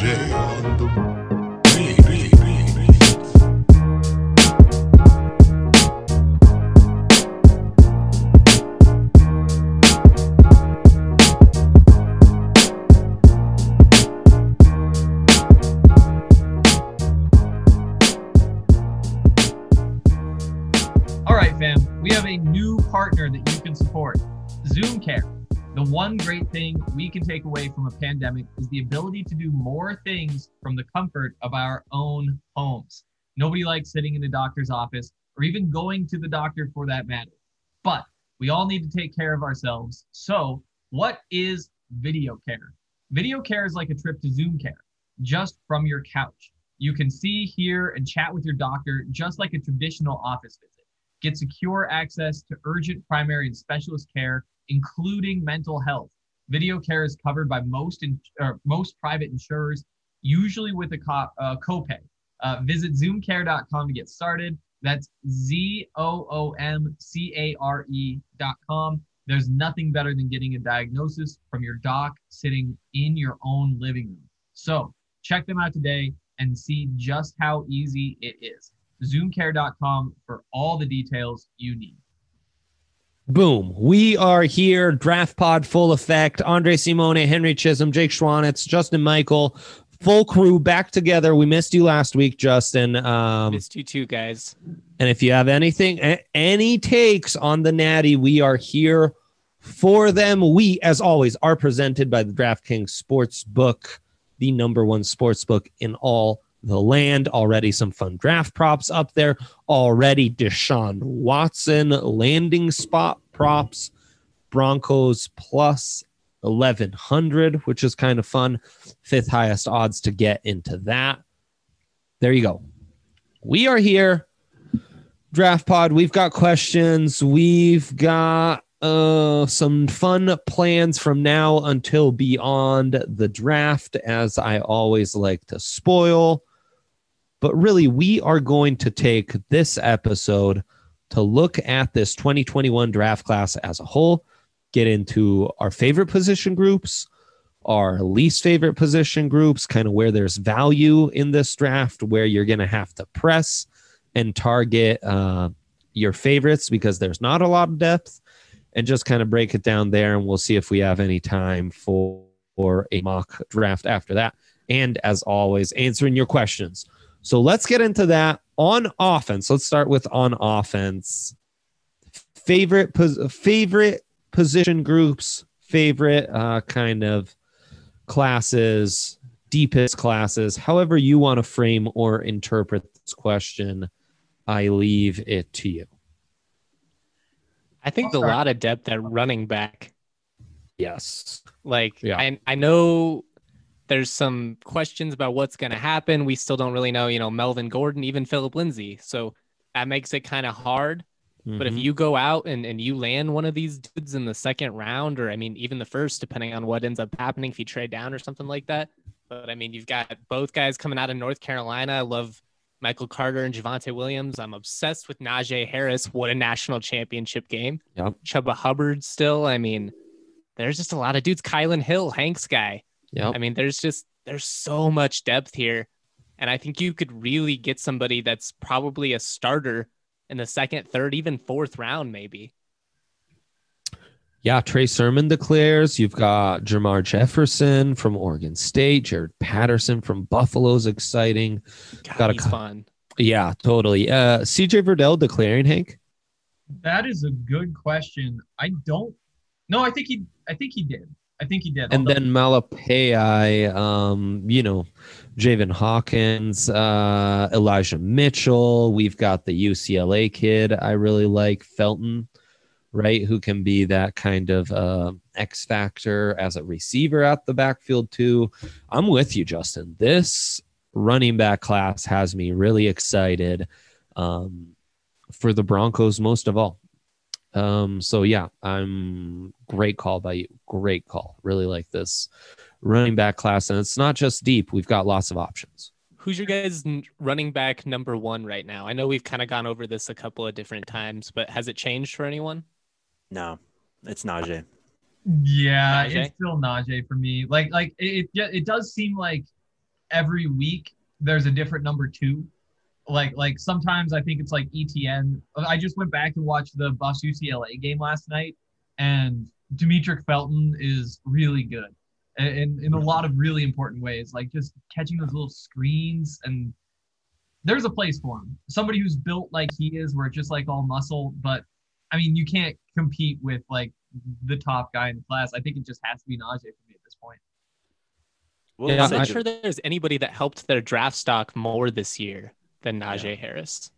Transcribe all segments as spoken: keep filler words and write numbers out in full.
Najee on the beat, beat, beat, beat. All right, fam, we have a new partner that you can support, Zoom Care. The one great thing we can take away from a pandemic is the ability to do more things from the comfort of our own homes. Nobody likes sitting in the doctor's office or even going to the doctor for that matter. But we all need to take care of ourselves. So what is video care? Video care is like a trip to Zoom Care, just from your couch. You can see, hear, and chat with your doctor just like a traditional office visit. Get secure access to urgent primary and specialist care, including mental health. Video care is covered by most in, or most private insurers, usually with a co- uh, copay. Uh, visit zoom care dot com to get started. That's Z O O M C A R E dot com. There's nothing better than getting a diagnosis from your doc sitting in your own living room. So check them out today and see just how easy it is. zoom care dot com for all the details you need. Boom. We are here. Draft pod full effect. Andre Simone, Henry Chisholm, Jake Schwanitz, Justin Michael, full crew back together. We missed you last week, Justin. Um, missed you too, guys. And if you have anything, any takes on the Natty, we are here for them. We, as always, are presented by the DraftKings Sportsbook, the number one sportsbook in all the land. Already some fun draft props up there. Already Deshaun Watson landing spot props. Broncos plus eleven hundred, which is kind of fun. Fifth highest odds to get into that. There you go. We are here. Draft pod. We've got questions. We've got uh, some fun plans from now until beyond the draft, as I always like to spoil. But really, we are going to take this episode to look at this twenty twenty-one draft class as a whole, get into our favorite position groups, our least favorite position groups, kind of where there's value in this draft, where you're going to have to press and target uh, your favorites because there's not a lot of depth, and just kind of break it down there. And we'll see if we have any time for, for a mock draft after that. And as always, answering your questions. So let's get into that. On offense, let's start with on offense. Favorite pos- favorite position groups, favorite uh, kind of classes, deepest classes, however you want to frame or interpret this question, I leave it to you. I think a lot of depth at running back. Yes. Like, yeah. I, I know there's some questions about what's going to happen. We still don't really know, you know, Melvin Gordon, even Phillip Lindsay. So that makes it kind of hard. Mm-hmm. But if you go out and, and you land one of these dudes in the second round, or I mean, even the first, depending on what ends up happening, if you trade down or something like that. But I mean, you've got both guys coming out of North Carolina. I love Michael Carter and Javonte Williams. I'm obsessed with Najee Harris. What a national championship game. Yep. Chuba Hubbard still. I mean, there's just a lot of dudes. Kylan Hill, Hank's guy. Yep. I mean, there's just, there's so much depth here. And I think you could really get somebody that's probably a starter in the second, third, even fourth round, maybe. Yeah, Trey Sermon declares. You've got Jermar Jefferson from Oregon State. Jared Patterson from Buffalo's exciting. God, got he's a, fun. Yeah, totally. Uh, C J Verdell declaring, Hank? That is a good question. I don't. No, I think he. I think he did. I think he did. And then Malapai, um, you know, Javen Hawkins, uh, Elijah Mitchell. We've got the U C L A kid I really like, Felton, right, who can be that kind of uh, X factor as a receiver at the backfield too. I'm with you, Justin. This running back class has me really excited um, for the Broncos most of all. Um, so yeah, I'm great call by you. Great call. Really like this running back class. And it's not just deep. We've got lots of options. Who's your guys' running back number one right now? I know we've kind of gone over this a couple of different times, but has it changed for anyone? No, it's Najee. Yeah, Najee? it's still Najee for me. Like, like it, it, it does seem like every week there's a different number two. Like like sometimes I think it's like E T N. I just went back and watched the Buffs U C L A game last night, and Demetric Felton is really good in, in a lot of really important ways, like just catching those little screens. And there's a place for him. Somebody who's built like he is, where it's just like all muscle. But I mean, you can't compete with like the top guy in the class. I think it just has to be Najee for me at this point. Well, Yeah, I'm say not Jav- sure there's anybody that helped their draft stock more this year than Najee Yeah. Harris.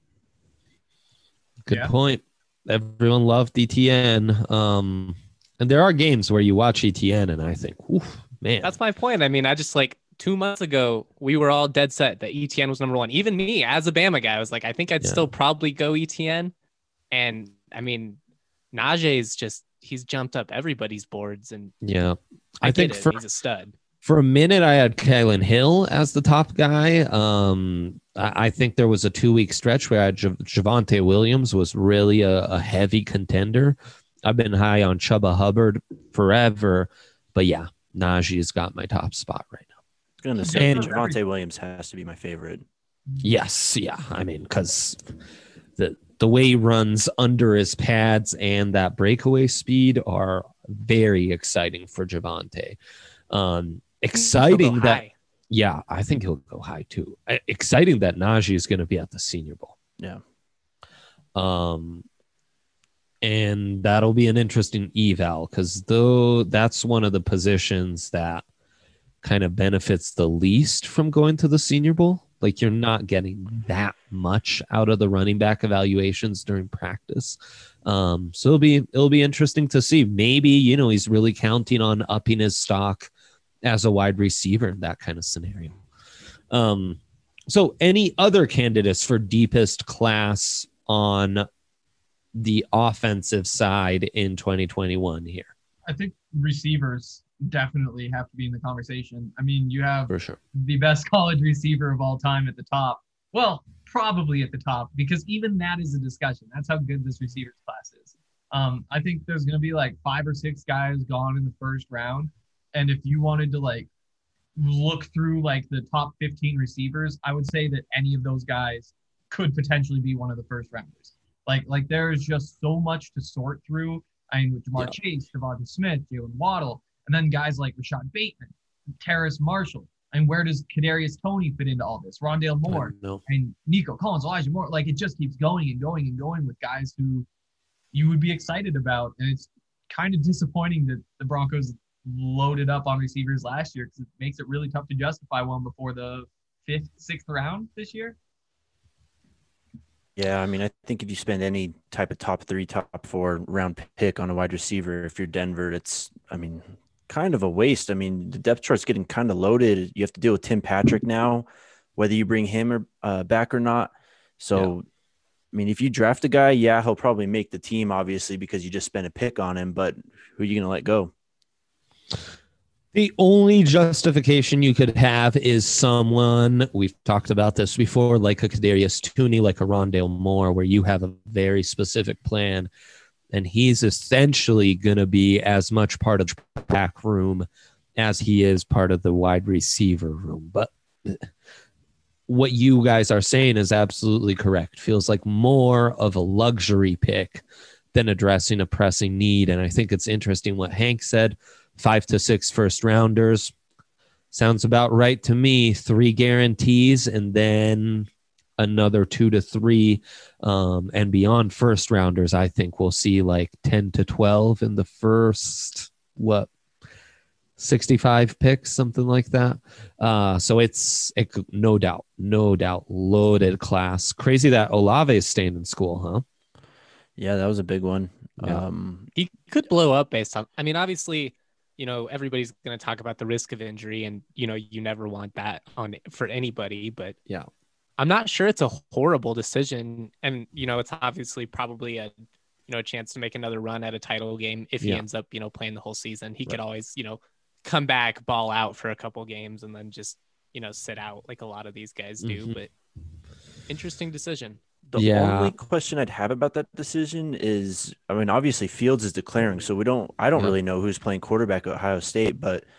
Good Yeah. point. Everyone loved E T N. Um, and there are games where you watch E T N and I think, oof, man. That's my point. I mean, I just like two months ago, we were all dead set that E T N was number one. Even me, as a Bama guy, I was like, I think I'd Yeah. still probably go E T N. And I mean, Najee's just, he's jumped up everybody's boards. And yeah. I, I get think it. for He's a stud. for a minute I had Kalen Hill as the top guy. Um, I, I think there was a two week stretch where I had Jav- Javonte Williams was really a, a heavy contender. I've been high on Chuba Hubbard forever, but yeah, Najee's got my top spot right now. I was gonna say And- Javonte Williams has to be my favorite. Yes, yeah. I mean, because the the way he runs under his pads and that breakaway speed are very exciting for Javonte. Um, exciting He'll go that high. yeah, I think he'll go high too. Uh, Exciting that Najee is going to be at the Senior Bowl. Yeah. Um, and that'll be an interesting eval because though that's one of the positions that kind of benefits the least from going to the Senior Bowl. Like you're not getting that much out of the running back evaluations during practice. Um, so it'll be it'll be interesting to see. Maybe, you know, he's really counting on upping his stock as a wide receiver in that kind of scenario. Um, so any other candidates for deepest class on the offensive side in twenty twenty-one here? I think receivers definitely have to be in the conversation. I mean, you have For sure. the best college receiver of all time at the top. Well, probably at the top, because even that is a discussion. That's how good this receivers class is. Um, I think there's going to be like five or six guys gone in the first round. And if you wanted to like look through like the top fifteen receivers, I would say that any of those guys could potentially be one of the first rounders. Like, like there is just so much to sort through. I mean, with Jamar Chase, Devonta Smith, Jalen Waddle, and then guys like Rashad Bateman, Terrace Marshall. And where does Kadarius Toney fit into all this? Rondale Moore No. and Nico Collins, Elijah Moore. Like it just keeps going and going and going with guys who you would be excited about. And it's kind of disappointing that the Broncos loaded up on receivers last year because it makes it really tough to justify one before the fifth, sixth round this year. Yeah, I mean, I think if you spend any type of top three, top four round pick on a wide receiver, if you're Denver, it's, I mean, kind of a waste. I mean, the depth chart's getting kind of loaded. You have to deal with Tim Patrick now, whether you bring him or uh, back or not. So, I mean, if you draft a guy, yeah, he'll probably make the team, obviously, because you just spent a pick on him. But who are you going to let go? The only justification you could have is someone, we've talked about this before, like a Kadarius Toney, like a Rondale Moore, where you have a very specific plan, and he's essentially going to be as much part of the back room as he is part of the wide receiver room. But what you guys are saying is absolutely correct. Feels like more of a luxury pick than addressing a pressing need. And I think it's interesting what Hank said. Five to six first rounders. Sounds about right to me. Three guarantees and then another two to three. Um, and beyond first rounders, I think we'll see like ten to twelve in the first, what, sixty-five picks, something like that. Uh, so it's it, no doubt, no doubt, loaded class. Crazy that Olave is staying in school, huh? Yeah, that was a big one. Yeah. Um, He could blow up based on, I mean, obviously, you know, everybody's going to talk about the risk of injury and, you know, you never want that on for anybody, but Yeah. I'm not sure it's a horrible decision. And, you know, it's obviously probably a, you know, a chance to make another run at a title game. If he Yeah. ends up, you know, playing the whole season, he could Right. always, you know, come back, ball out for a couple games and then just, you know, sit out like a lot of these guys do. Mhm. But interesting decision. The Yeah. only question I'd have about that decision is, I mean, obviously Fields is declaring, so we don't, I don't Yeah. really know who's playing quarterback at Ohio State, but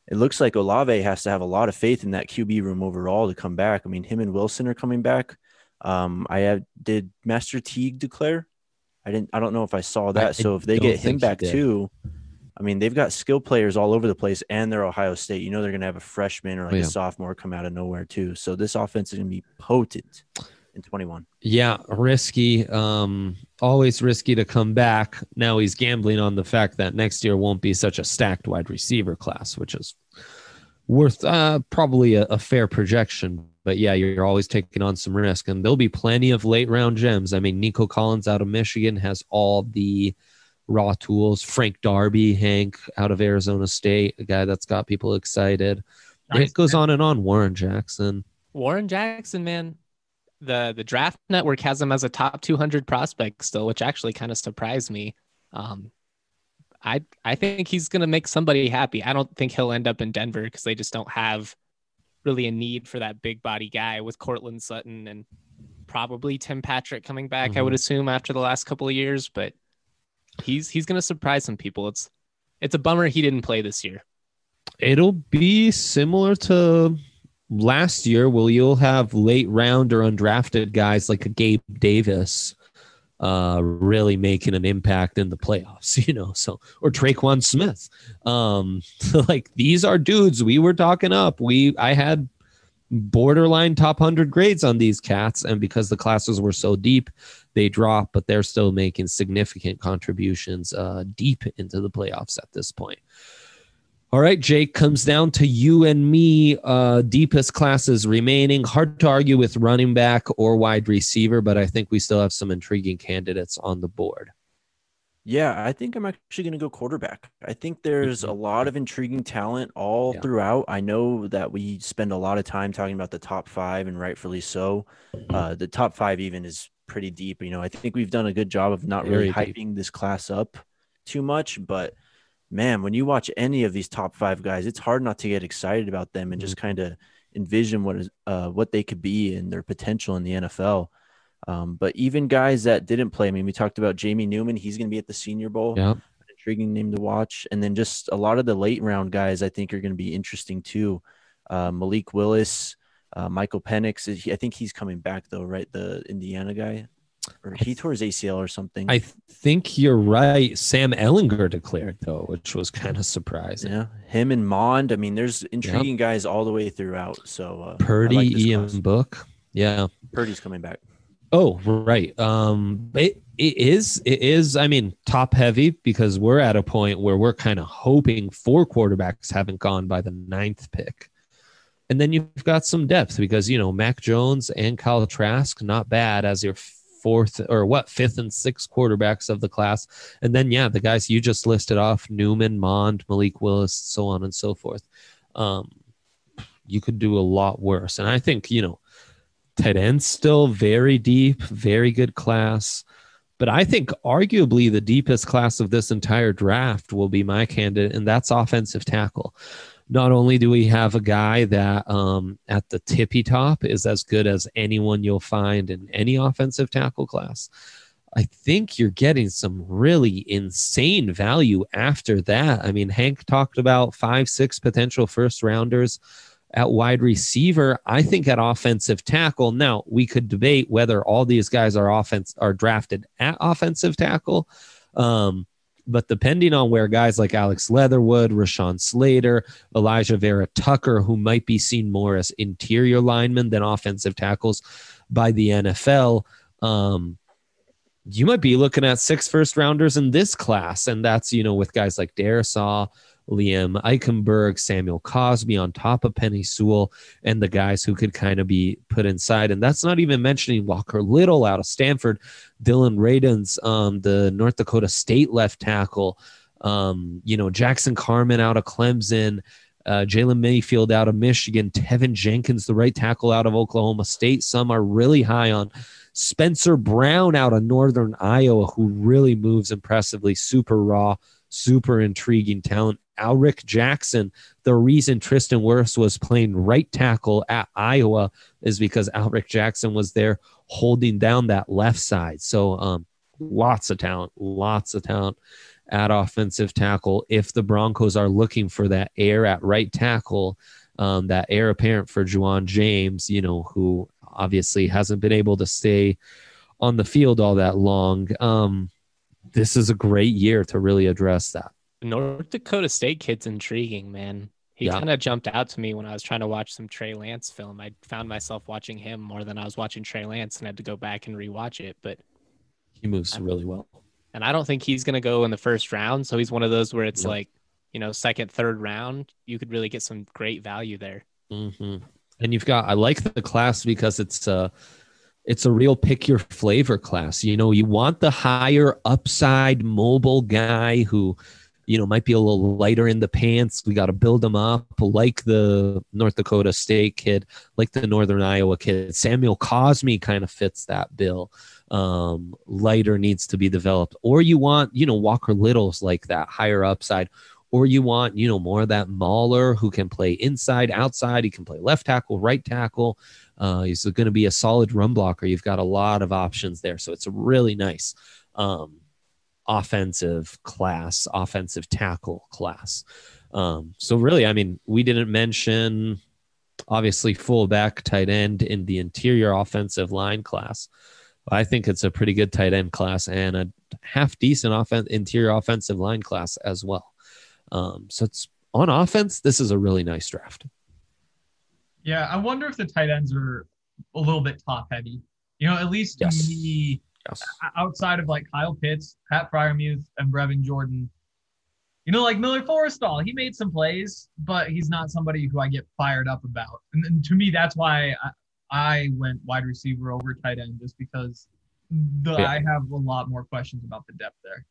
it looks like Olave has to have a lot of faith in that Q B room overall to come back. I mean, him and Wilson are coming back. Um, I have did Master Teague declare? I didn't. I don't know if I saw that. I so if they don't get him think he back did. too, I mean, they've got skill players all over the place, and they're Ohio State. You know, they're going to have a freshman or like Oh, yeah. a sophomore come out of nowhere too. So this offense is going to be potent in twenty-one. Yeah, risky. Um, always risky to come back. Now he's gambling on the fact that next year won't be such a stacked wide receiver class, which is worth uh, probably a, a fair projection. But yeah, you're always taking on some risk, and there'll be plenty of late round gems. I mean, Nico Collins out of Michigan has all the raw tools. Frank Darby, Hank out of Arizona State, a guy that's got people excited. Nice. It goes on and on. Warren Jackson. Warren Jackson, man, the the draft network has him as a top two hundred prospect still, which actually kind of surprised me. Um, I I think he's gonna make somebody happy. I don't think he'll end up in Denver because they just don't have really a need for that big body guy with Cortland Sutton and probably Tim Patrick coming back. I would Mhm. assume after the last couple of years, but he's he's gonna surprise some people. It's it's a bummer he didn't play this year. It'll be similar to last year, where you'll have late round or undrafted guys like a Gabe Davis uh, really making an impact in the playoffs, you know, so, or Traquan Smith. Um, so like these are dudes we were talking up. We, I had borderline top one hundred grades on these cats, and because the classes were so deep, they drop, but they're still making significant contributions uh, deep into the playoffs at this point. All right, Jake, comes down to you and me. Uh, deepest classes remaining. Hard to argue with running back or wide receiver, but I think we still have some intriguing candidates on the board. Yeah, I think I'm actually going to go quarterback. I think there's a lot of intriguing talent all Yeah. throughout. I know that we spend a lot of time talking about the top five, and rightfully so. Uh, the top five even is pretty deep. You know, I think we've done a good job of not really Very deep. hyping this class up too much, but man, when you watch any of these top five guys, it's hard not to get excited about them and just kind of envision what is uh, what they could be and their potential in the N F L. Um, but even guys that didn't play, I mean, we talked about Jamie Newman. He's going to be at the Senior Bowl. Yeah. An intriguing name to watch. And then just a lot of the late round guys I think are going to be interesting too. Uh, Malik Willis, uh, Michael Penix. Is he, I think he's coming back though, right? The Indiana guy. Or he tore his A C L or something. I th- think you're right. Sam Ellinger declared, though, which was kind of surprising. Yeah, him and Mond. I mean, there's intriguing guys all the way throughout. So uh, Purdy, I like this Ian class. Book. Yeah. Purdy's coming back. Oh, right. Um, it, it is, it is, I mean, top heavy, because we're at a point where we're kind of hoping four quarterbacks haven't gone by the ninth pick. And then you've got some depth because, you know, Mac Jones and Kyle Trask, not bad as your fourth or what, fifth and sixth quarterbacks of the class. And then, yeah, the guys you just listed off, Newman, Mond, Malik Willis, so on and so forth. Um, you could do a lot worse. And I think, you know, tight end still very deep, very good class. But I think arguably the deepest class of this entire draft will be my candidate, and that's offensive tackle. Not only do we have a guy that um, at the tippy top is as good as anyone you'll find in any offensive tackle class, I think you're getting some really insane value after that. I mean, Hank talked about five, six potential first rounders at wide receiver. I think at offensive tackle. Now, we could debate whether all these guys are offense are drafted at offensive tackle. Um, But depending on where guys like Alex Leatherwood, Rashawn Slater, Elijah Vera Tucker, who might be seen more as interior linemen than offensive tackles by the N F L, um, you might be looking at six first rounders in this class. And that's, you know, with guys like Darisaw, Liam Eichenberg, Samuel Cosby on top of Penny Sewell, and the guys who could kind of be put inside. And that's not even mentioning Walker Little out of Stanford, Dylan Radens, um, the North Dakota State left tackle, um, you know, Jackson Carman out of Clemson, uh, Jalen Mayfield out of Michigan, Tevin Jenkins, the right tackle out of Oklahoma State. Some are really high on. Spencer Brown out of Northern Iowa, who really moves impressively, super raw, super intriguing talent. Alric Jackson, the reason Tristan Wirfs was playing right tackle at Iowa is because Alric Jackson was there holding down that left side. So um, lots of talent, lots of talent at offensive tackle. If the Broncos are looking for that heir at right tackle, um, that heir apparent for Juwan James, you know, who obviously hasn't been able to stay on the field all that long, um, this is a great year to really address that. North Dakota State kid's intriguing, man. He Yeah. kind of jumped out to me when I was trying to watch some Trey Lance film. I found myself watching him more than I was watching Trey Lance and had to go back and rewatch it. But He moves really well. and I don't think he's going to go in the first round. So he's one of those where it's Yep. like, you know, second, third round, you could really get some great value there. hmm And you've got, I like the class because it's a, it's a real pick your flavor class. You know, you want the higher upside mobile guy who, you know, might be a little lighter in the pants. We got to build them up like the North Dakota State kid, like the Northern Iowa kid. Samuel Cosme kind of fits that bill. Um, lighter needs to be developed. Or you want, you know, Walker Little's like that higher upside. Or you want, you know, more of that Mauler who can play inside, outside. He can play left tackle, right tackle. Uh, he's going to be a solid run blocker. You've got a lot of options there. So it's a really nice um, offensive class, offensive tackle class. Um, so really, I mean, we didn't mention, obviously, fullback, tight end in the interior offensive line class. I think it's a pretty good tight end class and a half decent offen- interior offensive line class as well. Um, so it's on offense. This is a really nice draft. Yeah, I wonder if the tight ends are a little bit top heavy. You know, at least to Yes. me, Yes. outside of like Kyle Pitts, Pat Fryermuth, and Brevin Jordan, you know, like Miller Forrestall, he made some plays, but he's not somebody who I get fired up about. And, and to me, that's why I, I went wide receiver over tight end, just because the, Yeah. I have a lot more questions about the depth there.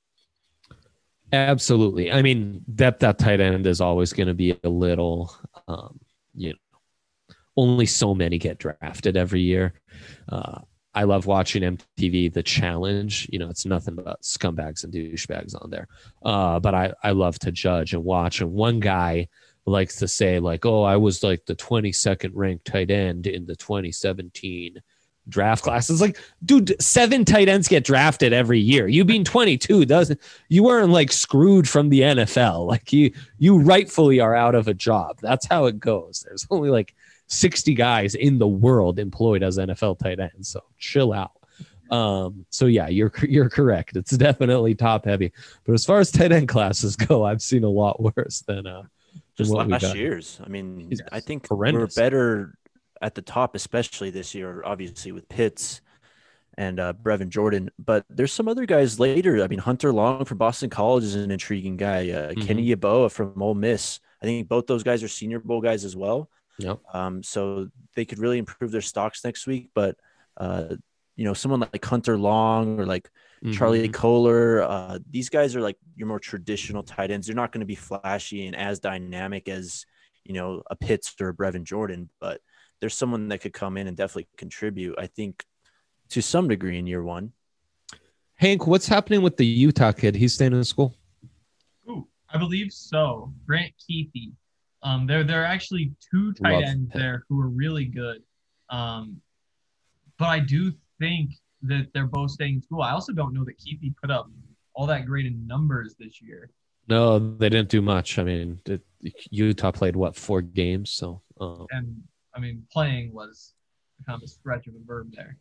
Absolutely. I mean, depth at tight end is always going to be a little, um, you know, only so many get drafted every year. Uh, I love watching M T V, The Challenge. You know, it's nothing but scumbags and douchebags on there. Uh, but I, I love to judge and watch. And one guy likes to say, like, oh, I was like the twenty-second ranked tight end in the twenty seventeen draft class. It's like, dude, seven tight ends get drafted every year. You being twenty-two doesn't, you weren't like screwed from the N F L. Like you, you rightfully are out of a job. That's how it goes. There's only like sixty guys in the world employed as N F L tight ends. So chill out. Um, so yeah, you're, you're correct. It's definitely top heavy, but as far as tight end classes go, I've seen a lot worse than, uh, Just what we last got. year's. I mean, Yes. I think Horrendous. we're better at the top, especially this year, obviously with Pitts and uh, Brevin Jordan. But there's some other guys later. I mean, Hunter Long from Boston College is an intriguing guy. Uh, Mhm. Kenny Yeboah from Ole Miss. I think both those guys are Senior Bowl guys as well. Yep. Um, so they could really improve their stocks next week. But uh, you know, someone like Hunter Long or like Charlie Mhm. Kohler, uh, these guys are like your more traditional tight ends. They're not going to be flashy and as dynamic as, you know, a Pitts or a Brevin Jordan, but there's someone that could come in and definitely contribute, I think, to some degree in year one. Hank, what's happening with the Utah kid? He's staying in school. Ooh, I believe so. Grant Keithy. Um, there, there are actually two tight Love ends him. there who are really good. Um, but I do think that they're both staying in school. I also don't know that Keithy put up all that great in numbers this year. No, they didn't do much. I mean, it, Utah played what, four games? So, uh, And I mean, playing was kind of a stretch of a verb there.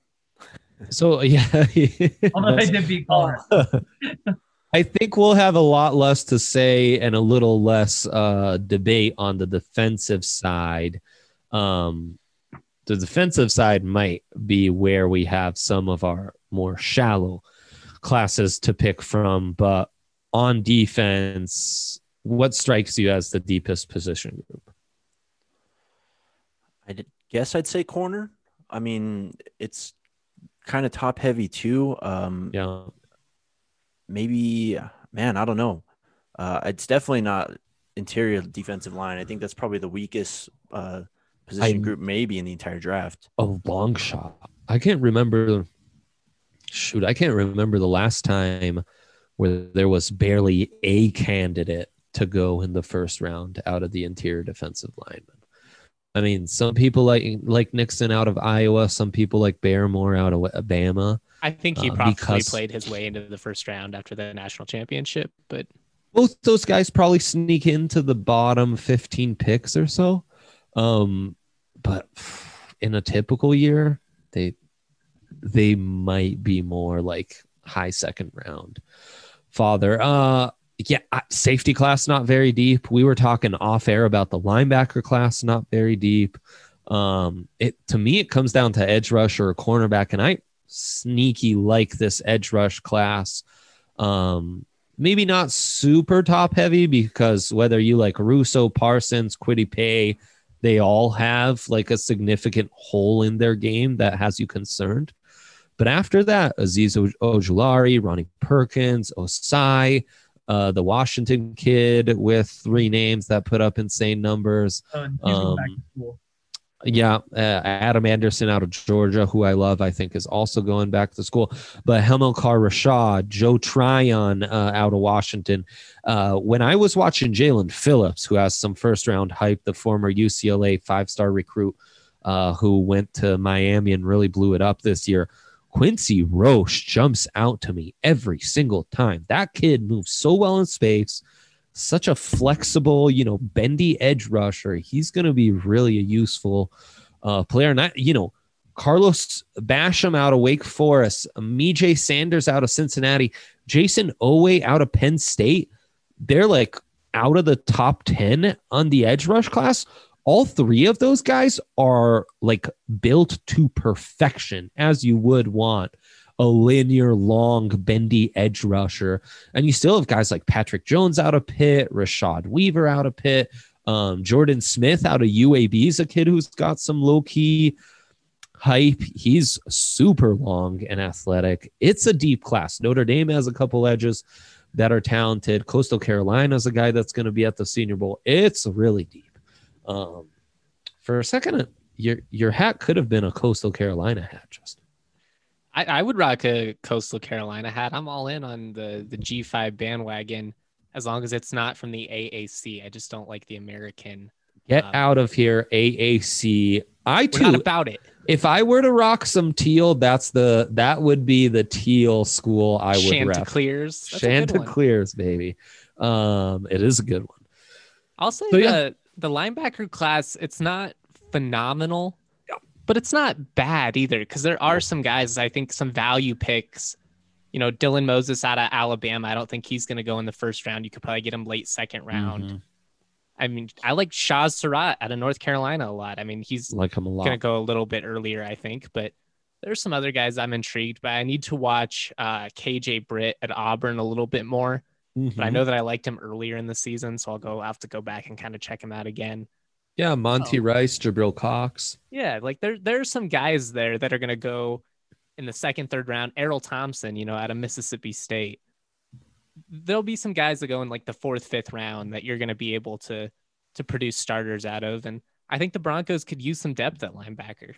so yeah. Although they did beat Colorado. I think we'll have a lot less to say and a little less uh, debate on the defensive side. Um, the defensive side might be where we have some of our more shallow classes to pick from, but on defense, what strikes you as the deepest position group? I did, guess I'd say corner. I mean, it's kind of top heavy too. Um, Yeah. Maybe, man, I don't know. Uh, it's definitely not interior defensive line. I think that's probably the weakest uh, position I- group maybe in the entire draft. A long shot. I can't remember. Shoot, I can't remember the last time where there was barely a candidate to go in the first round out of the interior defensive lineman. I mean, some people like like Nixon out of Iowa, some people like Barrymore out of Alabama. I think he uh, probably because played his way into the first round after the national championship, but both those guys probably sneak into the bottom fifteen picks or so. Um, but in a typical year, they they might be more like high second round. Father, uh, yeah, safety class not very deep. We were talking off air about the linebacker class not very deep. Um, it to me it comes down to edge rush or a cornerback, and I sneaky like this edge rush class. Um, maybe not super top heavy because whether you like Russo, Parsons, Kwity Paye, they all have like a significant hole in their game that has you concerned. But after that, Aziz Ojulari, Ronnie Perkins, Osai, uh, the Washington kid with three names that put up insane numbers. Uh, he's going back Um, to school. Yeah, uh, Adam Anderson out of Georgia, who I love, I think is also going back to school. But Hamilcar Rashad, Joe Tryon uh, out of Washington. Uh, when I was watching Jalen Phillips, who has some first round hype, the former U C L A five star recruit uh, who went to Miami and really blew it up this year, Quincy Roche jumps out to me every single time. That kid moves so well in space. Such a flexible, you know, bendy edge rusher. He's going to be really a useful uh, player. Not, you know, Carlos Basham out of Wake Forest, Mijay Sanders out of Cincinnati, Jason Owe out of Penn State. They're like out of the top ten on the edge rush class. All three of those guys are like built to perfection, as you would want a linear, long, bendy edge rusher. And you still have guys like Patrick Jones out of Pitt, Rashad Weaver out of Pitt, um, Jordan Smith out of U A B is a kid who's got some low-key hype. He's super long and athletic. It's a deep class. Notre Dame has a couple edges that are talented. Coastal Carolina is a guy that's going to be at the Senior Bowl. It's really deep. Um, for a second, your your hat could have been a Coastal Carolina hat, Justin. I, I would rock a Coastal Carolina hat. I'm all in on the, the G five bandwagon as long as it's not from the A A C. I just don't like the American. Get um, out of here, A A C. I We're too. not about it. If I were to rock some teal, that's the that would be the teal school I would rep. Chanticleers. That's a good one. Chanticleers, baby. Um, it is a good one. I'll say So, the, yeah. the linebacker class, it's not phenomenal, but it's not bad either because there are some guys, I think some value picks. You know, Dylan Moses out of Alabama. I don't think he's going to go in the first round. You could probably get him late second round. Mm-hmm. I mean, I like Shaz Surratt out of North Carolina a lot. I mean, he's Like him a lot. going to go a little bit earlier, I think, but there's some other guys I'm intrigued by. I need to watch uh, K J Britt at Auburn a little bit more, Mhm. but I know that I liked him earlier in the season, so I'll go I'll have to go back and kind of check him out again. Yeah, Monty Oh. Rice, Jabril Cox. Yeah, like there there's some guys there that are going to go in the second, third round. Errol Thompson, you know, out of Mississippi State. There'll be some guys that go in like the fourth, fifth round that you're going to be able to to produce starters out of, and I think the Broncos could use some depth at linebacker.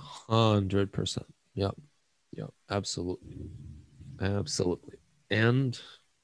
Hundred percent. Yep. Yep. Absolutely. Absolutely. And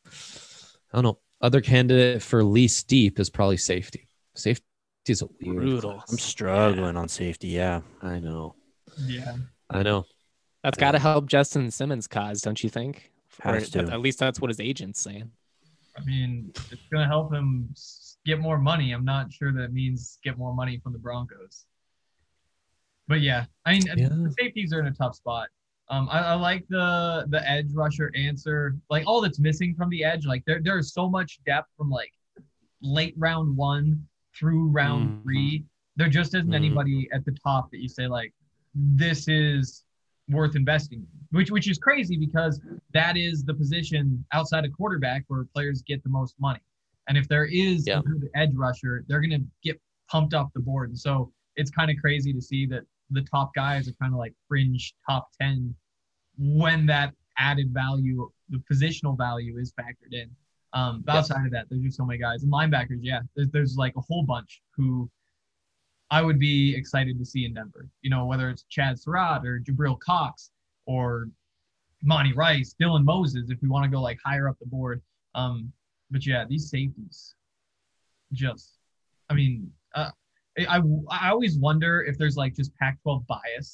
I don't know. Other candidate for least deep is probably safety. Safety is a weird Brutal. class. I'm struggling on safety. Yeah. I know. Yeah. I know. That's got to help Justin Simmons' cause, don't you think? Or Has to. at least that's what his agent's saying. I mean, it's going to help him s- get more money. I'm not sure that means get more money from the Broncos. But yeah, I mean, Yeah. the safeties are in a tough spot. Um, I, I like the the edge rusher answer. Like all that's missing from the edge, like there there is so much depth from like late round one through round Mhm. three. There just isn't Mhm. anybody at the top that you say like this is worth investing in, which which is crazy because that is the position outside of quarterback where players get the most money. And if there is Yeah. a good edge rusher, they're going to get pumped off the board. And so it's kind of crazy to see that the top guys are kind of like fringe top ten when that added value, the positional value is factored in. Um, but Yeah. outside of that, there's just so many guys. And linebackers, yeah, there's, there's like a whole bunch who I would be excited to see in Denver. You know, whether it's Chad Surratt or Jabril Cox or Monty Rice, Dylan Moses, if we want to go like higher up the board. Um, but yeah, these safeties, just, I mean, uh, I, I I always wonder if there's like just Pac twelve bias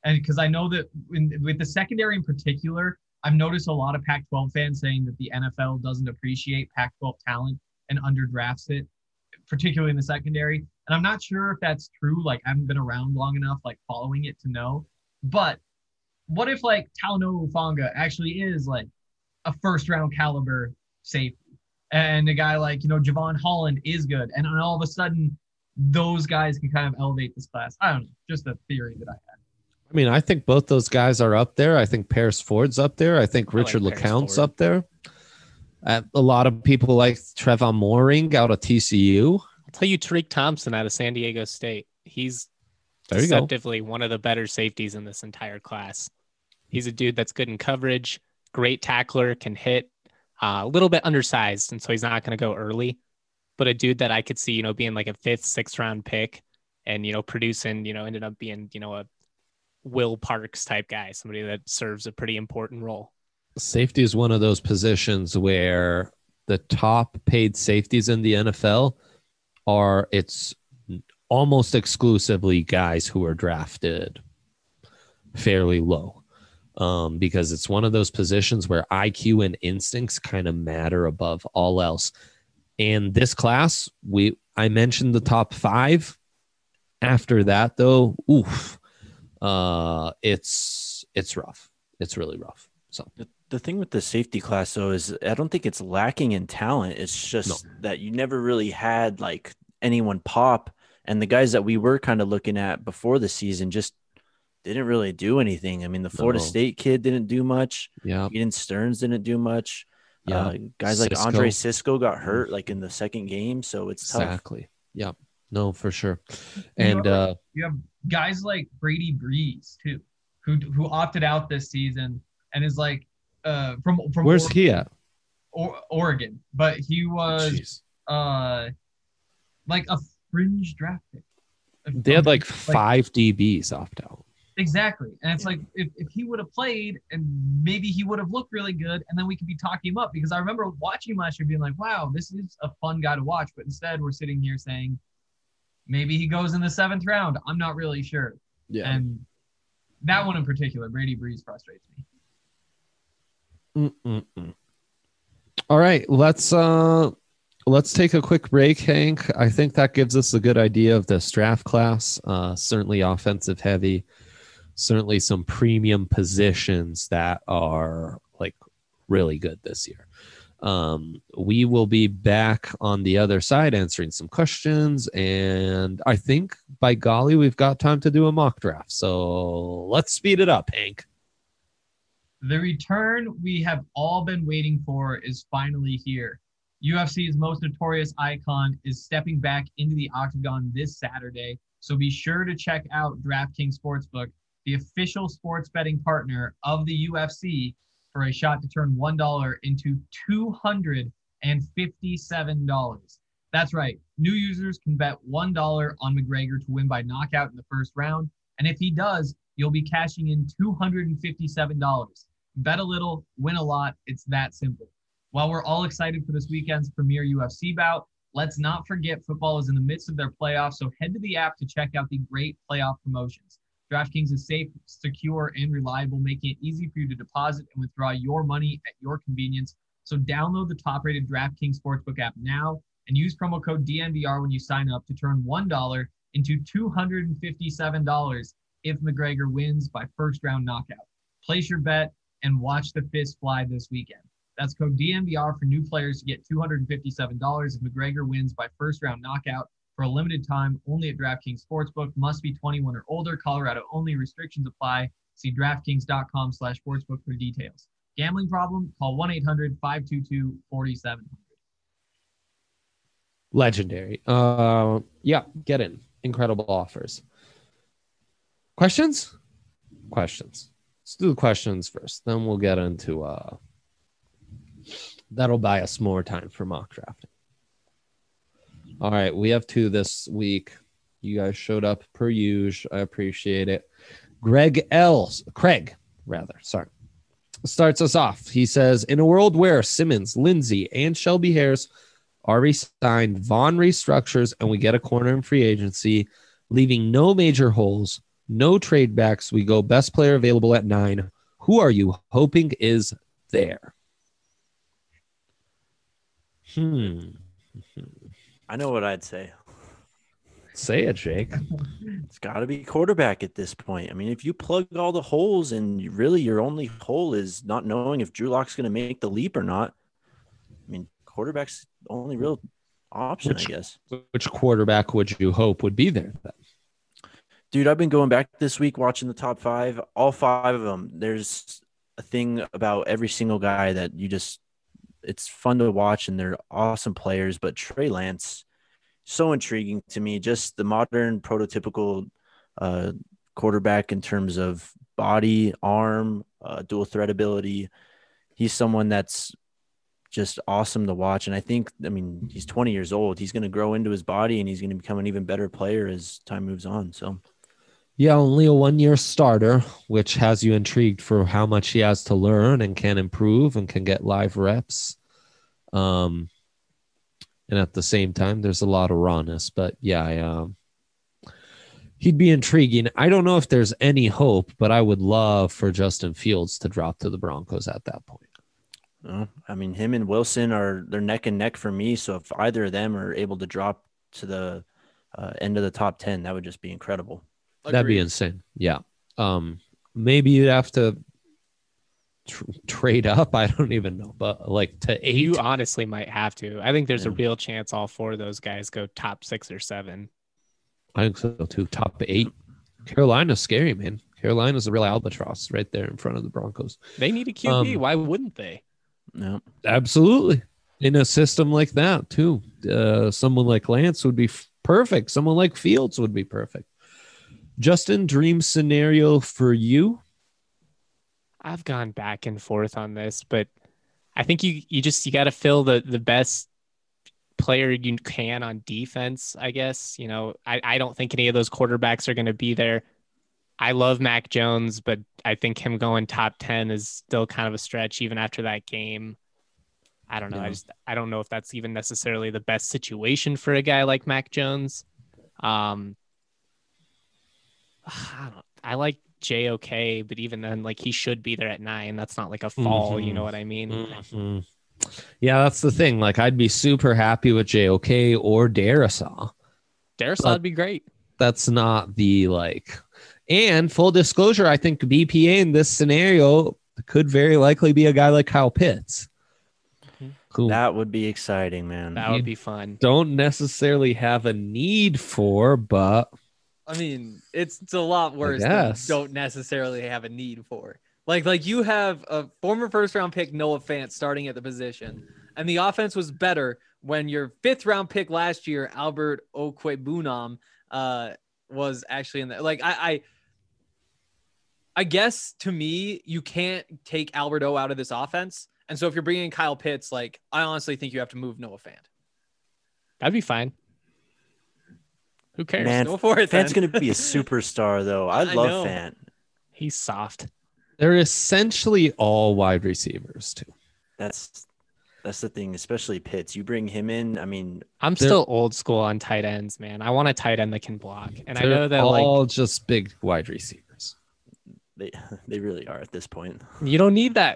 And because I know that in, with the secondary in particular, I've noticed a lot of Pac twelve fans saying that the N F L doesn't appreciate Pac twelve talent and underdrafts it, particularly in the secondary. And I'm not sure if that's true. Like, I haven't been around long enough, like, following it to know. But what if, like, Talanoa Hufanga actually is, like, a first-round caliber safety? And a guy like, you know, Javon Holland is good. And then all of a sudden, those guys can kind of elevate this class. I don't know. Just a theory that I had. I mean, I think both those guys are up there. I think Paris Ford's up there. I think I like Richard Paris LeCounte's Ford. up there. Uh, a lot of people like Trevon Mooring out of T C U. I'll tell you, Tariq Thompson out of San Diego State. He's There you go. deceptively one of the better safeties in this entire class. He's a dude that's good in coverage, great tackler, can hit, uh, a little bit undersized, and so he's not going to go early. But a dude that I could see, you know, being like a fifth, sixth round pick, and you know, producing, you know, ended up being, you know, a Will Parks type guy, somebody that serves a pretty important role. Safety is one of those positions where the top paid safeties in the N F L are it's almost exclusively guys who are drafted fairly low, um, because it's one of those positions where I Q and instincts kind of matter above all else. And this class, we I mentioned the top five. After that, though, oof, uh, it's it's rough. It's really rough. So The, the thing with the safety class, though, is I don't think it's lacking in talent. It's just No. that you never really had like anyone pop. And the guys that we were kind of looking at before the season just didn't really do anything. I mean, the Florida No. State kid didn't do much. yeah, Eden Stearns didn't do much. yeah, Uh, guys like Cisco. Andre Cisco got hurt like in the second game. So it's tough. exactly. Yeah, no, for sure. And uh, You have guys like Brady Breeze too, who who opted out this season and is like uh from from where's Oregon, he at? or, Oregon, but he was Jeez. uh like a fringe draft pick. They had like five D Bs opt out. exactly, and it's like if, if he would have played and maybe he would have looked really good, and then we could be talking him up, because I remember watching him last year being like, wow, this is a fun guy to watch, but instead we're sitting here saying maybe he goes in the seventh round. I'm not really sure. Yeah. And that one in particular, Brady Breeze, frustrates me. Mm-mm-mm. All right, let's uh let's take a quick break, Hank. I think that gives us a good idea of this draft class. Uh, certainly offensive heavy, certainly some premium positions that are like really good this year. Um, we will be back on the other side answering some questions, and I think by golly, we've got time to do a mock draft. So let's speed it up, Hank. The return we have all been waiting for is finally here. U F C's most notorious icon is stepping back into the octagon this Saturday, so be sure to check out DraftKings Sportsbook, the official sports betting partner of the U F C, for a shot to turn one dollar into two hundred fifty-seven dollars. That's right. New users can bet one dollar on McGregor to win by knockout in the first round, and if he does, you'll be cashing in two hundred fifty-seven dollars. Bet a little, win a lot. It's that simple. While we're all excited for this weekend's premier U F C bout, let's not forget football is in the midst of their playoffs, so head to the app to check out the great playoff promotions. DraftKings is safe, secure, and reliable, making it easy for you to deposit and withdraw your money at your convenience. So download the top-rated DraftKings Sportsbook app now and use promo code D N V R when you sign up to turn one dollar into two hundred fifty-seven dollars if McGregor wins by first-round knockout. Place your bet and watch the fist fly this weekend. That's code D N V R for new players to get two hundred fifty-seven dollars if McGregor wins by first-round knockout. For a limited time, only at DraftKings Sportsbook. Must be twenty-one or older. Colorado only. Restrictions apply. See DraftKings.com slash sportsbook for details. Gambling problem? Call one eight hundred five two two four seven zero zero. Legendary. Uh, yeah, get in. Incredible offers. Questions? Questions. Let's do the questions first. Then we'll get into uh that'll buy us more time for mock drafting. All right, we have two this week. You guys showed up per usual. I appreciate it. Greg L. Craig, rather, sorry. Starts us off. He says, in a world where Simmons, Lindsey, and Shelby Harris are re-signed, Vaughn restructures, and we get a corner in free agency, leaving no major holes, No trade backs. We go best player available at nine. Who are you hoping is there? Hmm. I know what I'd say. Say it, Jake. It's got to be quarterback at this point. I mean, if you plug all the holes and you really your only hole is not knowing if Drew Lock's going to make the leap or not, I mean, quarterback's the only real option, Which- I guess. Which quarterback would you hope would be there then? Dude, I've been going back this week watching the top five, all five of them. There's a thing about every single guy that you just, it's fun to watch and they're awesome players. But Trey Lance, so intriguing to me, just the modern prototypical uh, quarterback in terms of body, arm, uh, dual threat ability. He's someone that's just awesome to watch. And I think, I mean, he's twenty years old. He's going to grow into his body and he's going to become an even better player as time moves on. So. Yeah, only a one-year starter, which has you intrigued for how much he has to learn and can improve and can get live reps. Um, and at the same time, there's a lot of rawness. But yeah, I, um, he'd be intriguing. I don't know if there's any hope, but I would love for Justin Fields to drop to the Broncos at that point. Uh, I mean, him and Wilson are they're neck and neck for me. So if either of them are able to drop to the uh, end of the top ten, that would just be incredible. That'd be insane. Yeah. Um, maybe you'd have to tr- trade up. I don't even know, but like to eight. You honestly might have to. I think there's a Yeah. real chance all four of those guys go top six or seven. I think so too. Top eight. Carolina's scary, man. Carolina's a real albatross right there in front of the Broncos. They need a Q B. Um, Why wouldn't they? No. Absolutely. In a system like that too. Uh, someone like Lance would be f- perfect. Someone like Fields would be perfect. Justin, dream scenario for you? I've gone back and forth on this, but I think you you just you got to fill the the best player you can on defense. I guess you know I I don't think any of those quarterbacks are going to be there. I love Mac Jones, but I think him going top ten is still kind of a stretch even after that game. I don't know. Yeah. I just I don't know if that's even necessarily the best situation for a guy like Mac Jones. Um, I, don't, I like J O K, but even then, like he should be there at nine. That's not like a fall. You Mhm. know what I mean? Mhm. Yeah, that's the thing. Like, I'd be super happy with J O K or Darisaw. Darisaw But- would be great. That's not the like. And full disclosure, I think B P A in this scenario could very likely be a guy like Kyle Pitts, who That would be exciting, man. That would be fun. don't necessarily have a need for, but I mean, it's, it's a lot worse than guess. don't necessarily have a need for. Like, like you have a former first round pick, Noah Fant, starting at the position, and the offense was better when your fifth round pick last year, Albert Okwebunam, uh, was actually in there. Like, I, I, I guess to me, you can't take Albert O out of this offense, and so if you're bringing in Kyle Pitts, like, I honestly think you have to move Noah Fant. That'd be fine. Who cares? Man, Go for it, Fant's then. going to be a superstar, though. I I love know. Fant. He's soft. they're essentially all wide receivers too. That's that's the thing, especially Pitts. You bring him in. I mean, I'm They're- still old school on tight ends, man. I want a tight end that can block, and I They're know that like all just big wide receivers. they they really are at this point. you don't need that.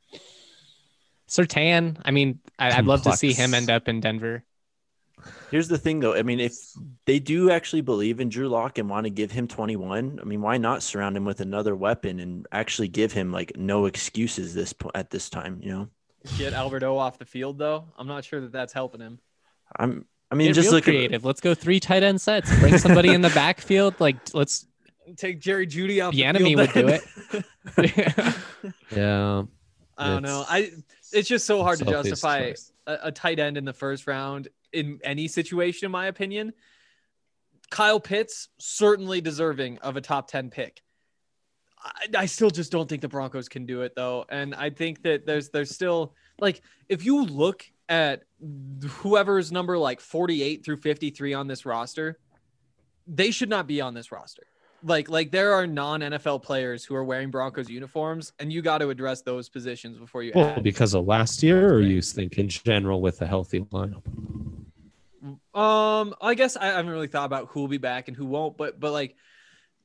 Sertan, I mean, I, I'd love to see him Complex. end up in Denver. Here's the thing, though. I mean, if they do actually believe in Drew Lock and want to give him twenty-one, I mean, why not surround him with another weapon and actually give him like no excuses this po- at this time? You know, Get Albert O off the field, though. I'm not sure that that's helping him. I'm. I mean, Get just real look creative. Let's go three tight end sets. Bring somebody in the backfield. Like let's. Take Jerry Judy off the Bieniemy field. would do then. it. Yeah, I don't It's- know. I it's just so hard to Sophie's justify choice. a, a tight end in the first round in any situation, in my opinion. Kyle Pitts certainly deserving of a top ten pick. I, I still just don't think the Broncos can do it though, and I think that there's there's still like if you look at whoever's number like forty-eight through fifty-three on this roster, they should not be on this roster. Like, like there are non-N F L players who are wearing Broncos uniforms, and you got to address those positions before you well, add. because of last year, or you think in general with a healthy lineup? Um, I guess I haven't really thought about who will be back and who won't, but but like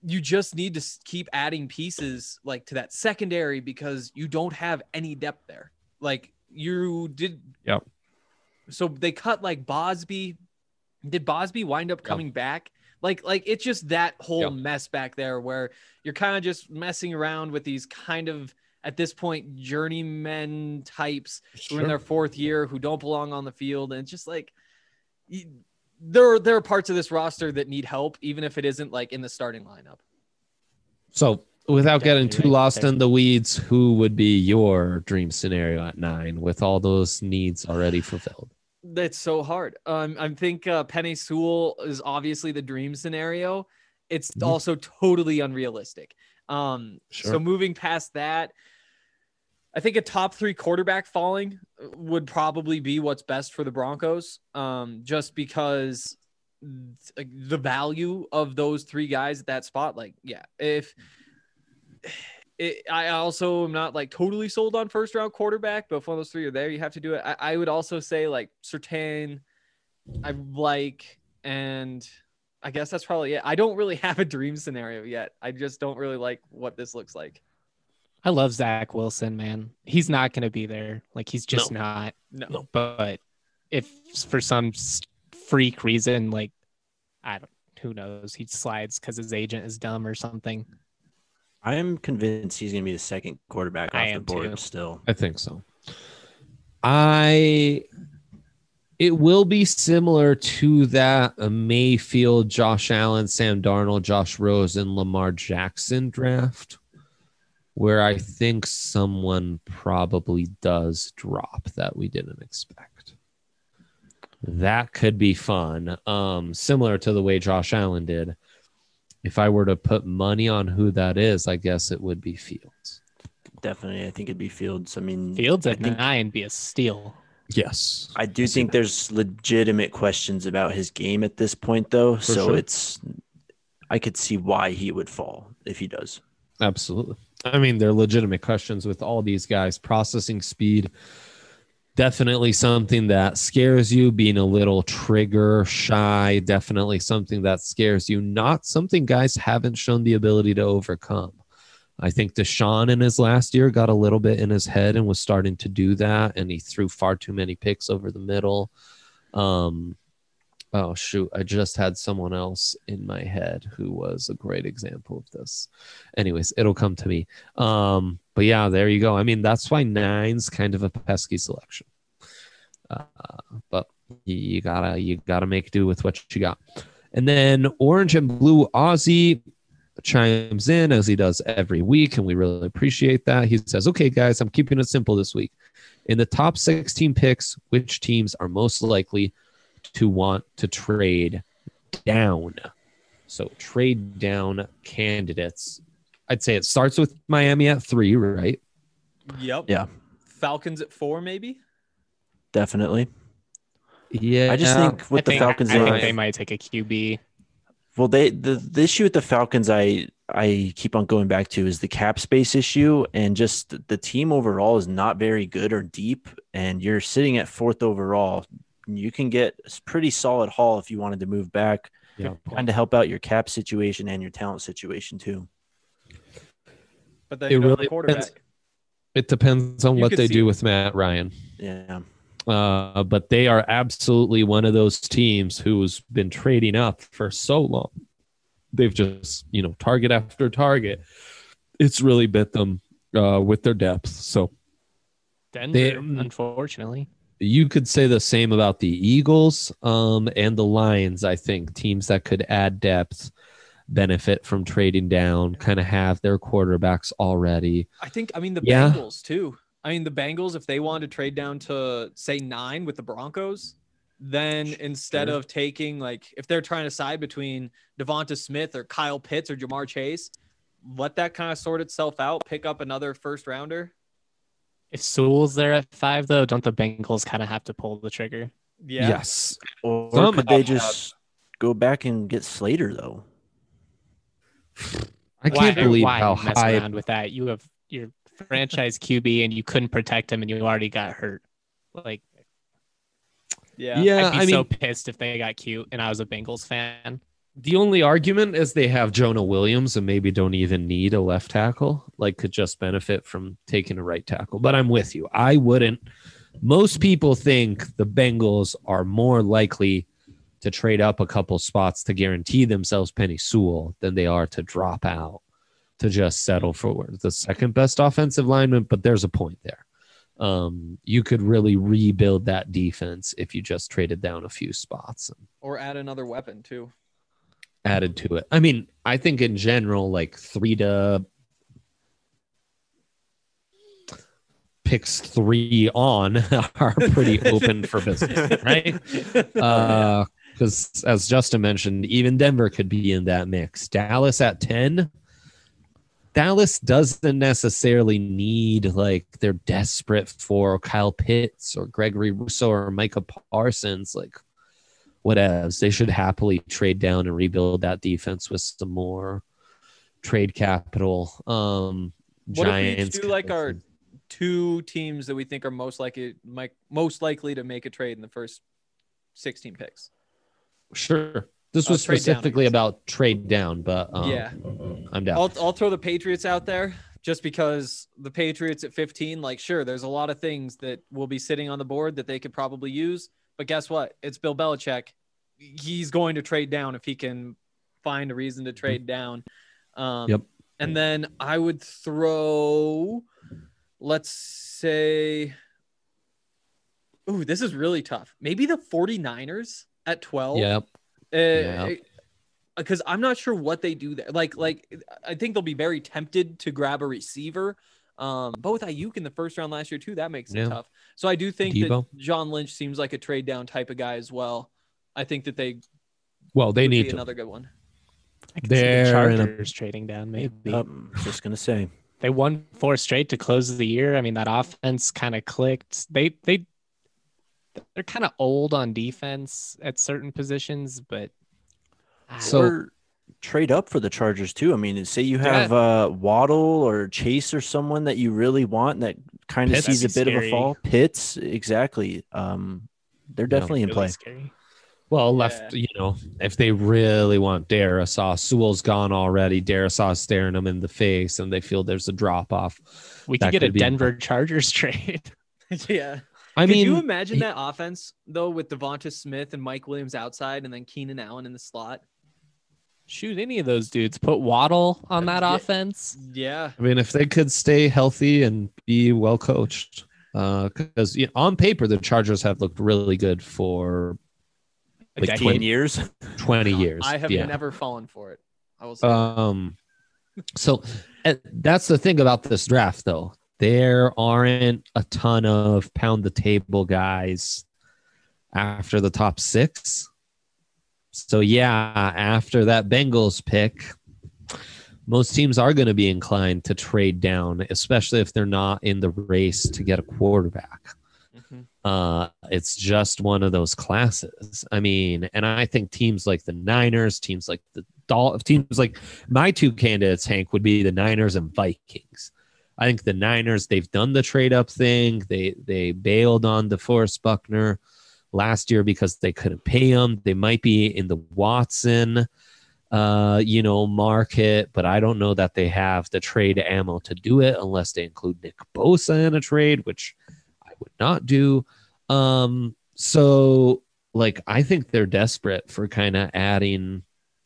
you just need to s- keep adding pieces like to that secondary because you don't have any depth there. Like you did. Yep. So they cut like Bosby. Did Bosby wind up coming back? Like, like it's just that whole Yep. mess back there where you're kind of just messing around with these kind of, at this point, journeyman types who are in their fourth year who don't belong on the field. And it's just like, you- there are, there are parts of this roster that need help, even if it isn't like in the starting lineup. So without getting Definitely too right lost there. in the weeds, who would be your dream scenario at nine with all those needs already fulfilled? That's so hard. Um, I think uh, Penny Sewell is obviously the dream scenario. It's Mhm. also totally unrealistic. Um, Sure. So moving past that, I think a top three quarterback falling would probably be what's best for the Broncos. Um, just because th- the value of those three guys at that spot, like, yeah, if it, I also am not like totally sold on first round quarterback, but if one of those three are there, you have to do it. I, I would also say like Surtain, I like, and I guess that's probably it. I don't really have a dream scenario yet. I just don't really like what this looks like. I love Zach Wilson, man. He's not going to be there. Like he's just not. No. No. But if for some s- freak reason, like I don't, who knows, he slides because his agent is dumb or something. I am convinced he's going to be the second quarterback I off the am board too. still. I think so. I it will be similar to that uh, Mayfield, Josh Allen, Sam Darnold, Josh Rosen, Lamar Jackson draft, where I think someone probably does drop that we didn't expect. That could be fun. Um, similar to the way Josh Allen did. If I were to put money on who that is, I guess it would be Fields. Definitely, I think it'd be Fields. I mean, Fields I at think nine be a steal. Yes. I do I see think that. there's legitimate questions about his game at this point, though. For so sure. it's, I could see why he would fall if he does. Absolutely. I mean, they're legitimate questions with all these guys. Processing speed, definitely something that scares you. Being a little trigger shy, definitely something that scares you. Not something guys haven't shown the ability to overcome. I think Deshaun in his last year got a little bit in his head and was starting to do that, and he threw far too many picks over the middle. Um, oh, shoot. I just had someone else in my head who was a great example of this. Anyways, it'll come to me. Um, but yeah, there you go. I mean, that's why nine's kind of a pesky selection. Uh, but you, you gotta you gotta make do with what you got. And then Orange and Blue Aussie chimes in as he does every week, and we really appreciate that. He says, okay, guys, I'm keeping it simple this week. In the top sixteen picks, which teams are most likely to want to trade down? So trade down candidates. I'd say it starts with Miami at three, right? Yep. Yeah, Falcons at four, maybe. definitely. Yeah. I just think with I the think, Falcons, I they think have- they might take a Q B. well, they the, the issue with the Falcons, I I keep on going back to is the cap space issue, and just the- the team overall is not very good or deep, and you're sitting at fourth overall. You can get a pretty solid haul if you wanted to move back, Yeah. kind of help out your cap situation and your talent situation too. But then It you don't have really a quarterback. depends. It depends on You what could they see do it. with Matt Ryan. Yeah, Uh, but they are absolutely one of those teams who's been trading up for so long. They've just, you know, target after target. It's really bit them uh, with their depth. So Denver, They- unfortunately. you could say the same about the Eagles um, and the Lions, I think. Teams that could add depth, benefit from trading down, kind of have their quarterbacks already. I think, I mean, the Yeah. Bengals too. I mean, the Bengals, if they wanted to trade down to say nine with the Broncos, then instead Sure. of taking like, if they're trying to side between Devonta Smith or Kyle Pitts or Jamar Chase, let that kind of sort itself out, pick up another first rounder. If Sewell's there at five, though, don't the Bengals kind of have to pull the trigger? Yeah. Yes. or Some could they have- just go back and get Slater though? I can't Why- believe why how mess high. around with that. You have your franchise Q B and you couldn't protect him and you already got hurt. Like, Yeah. Yeah, I'd be I mean, so pissed if they got cute and I was a Bengals fan. The only argument is they have Jonah Williams and maybe don't even need a left tackle, like could just benefit from taking a right tackle. But I'm with you. I wouldn't. Most people think the Bengals are more likely to trade up a couple spots to guarantee themselves Penny Sewell than they are to drop out to just settle for the second best offensive lineman. But there's a point there. Um, you could really rebuild that defense if you just traded down a few spots and Or add another weapon too. added to it. I mean, I think in general, like three to picks three on are pretty open for business, right? Uh, because as Justin mentioned, even Denver could be in that mix. Dallas at ten. Dallas doesn't necessarily need, like, they're desperate for Kyle Pitts or Gregory Rousseau or Micah Parsons, like, whatevs. They should happily trade down and rebuild that defense with some more trade capital. Um, What Giants. if we do like our two teams that we think are most likely, might, most likely to make a trade in the first sixteen picks? Sure. This Uh, was trade down, I specifically guess. about trade down, but um, Yeah. I'm down. I'll, I'll throw the Patriots out there just because the Patriots at fifteen, like, sure, there's a lot of things that will be sitting on the board that they could probably use. But guess what? It's Bill Belichick. He's going to trade down if he can find a reason to trade down. Um, Yep. And then I would throw, let's say, ooh, this is really tough. Maybe the 49ers at twelve. Yep. Uh, because I'm not sure what they do there. Like, like I think they'll be very tempted to grab a receiver. Um, but with Ayuk in the first round last year too, that makes it Yeah. tough. So I do think Debo. that John Lynch seems like a trade down type of guy as well. I think that they Well, they would be need to. another good one. I can see the They're in a- Chargers trading down maybe. Um, just gonna say. They won four straight to close the year. I mean, that offense kind of clicked. They they they're kind of old on defense at certain positions, but So- Or trade up for the Chargers too. I mean, say you have uh, Waddle or Chase or someone that you really want that kind of Pitts. sees a That'd bit be of a scary. fall. Pitts, exactly. Um, they're definitely in really play. scary. Well, left, you know, if they really want Darisaw, Sewell's gone already. Darisaw staring them in the face, and they feel there's a drop off. We That could get a could be- Denver Chargers trade. yeah. I Could mean, you imagine he- that offense though with Devonta Smith and Mike Williams outside and then Keenan Allen in the slot? Shoot any of those dudes. Put Waddle on that Yeah. offense. Yeah. I mean, if they could stay healthy and be well coached, because you know, on paper the Chargers have looked really good for A Like decade. Twenty years. twenty years. I have yeah. never fallen for it. I will say. that. Um, so uh, that's the thing about this draft, though. There aren't a ton of pound the table guys after the top six. So yeah, after that Bengals pick, most teams are going to be inclined to trade down, especially if they're not in the race to get a quarterback. Mhm. Uh, it's just one of those classes. I mean, and I think teams like the Niners, teams like the Dol- teams like my two candidates, Hank, would be the Niners and Vikings. I think the Niners, they've done the trade up thing. They they bailed on DeForest Buckner last year because they couldn't pay him. They might be in the Watson, uh, you know, market, but I don't know that they have the trade ammo to do it unless they include Nick Bosa in a trade, which I would not do. Um, so like I think they're desperate for kind of adding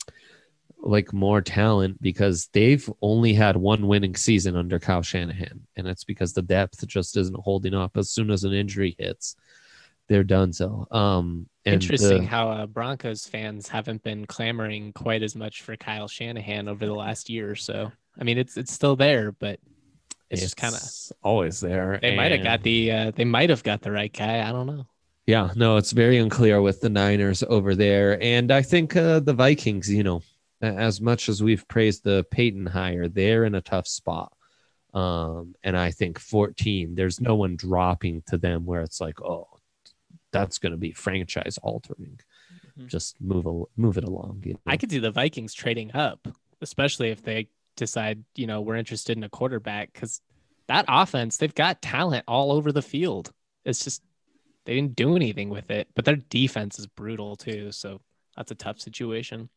like more talent because they've only had one winning season under Kyle Shanahan, and it's because the depth just isn't holding up. As soon as an injury hits, they're done. So, um, and Interesting the- how uh, Broncos fans haven't been clamoring quite as much for Kyle Shanahan over the last year or so. I mean, it's it's still there, but it's, just kind of always there. they might have and- got the uh, they might have got the right guy. I don't know. Yeah, no, it's very unclear with the Niners over there, and I think uh, the Vikings, you know, a- as much as we've praised the Peyton hire, they're in a tough spot. Um, and I think fourteen, there's no one dropping to them where it's like, oh, that's going to be franchise altering. Mhm. Just move a, move it along. You know? I could see the Vikings trading up, especially if they decide, you know, we're interested in a quarterback, because that offense, they've got talent all over the field. It's just they didn't do anything with it, but their defense is brutal too. So that's a tough situation.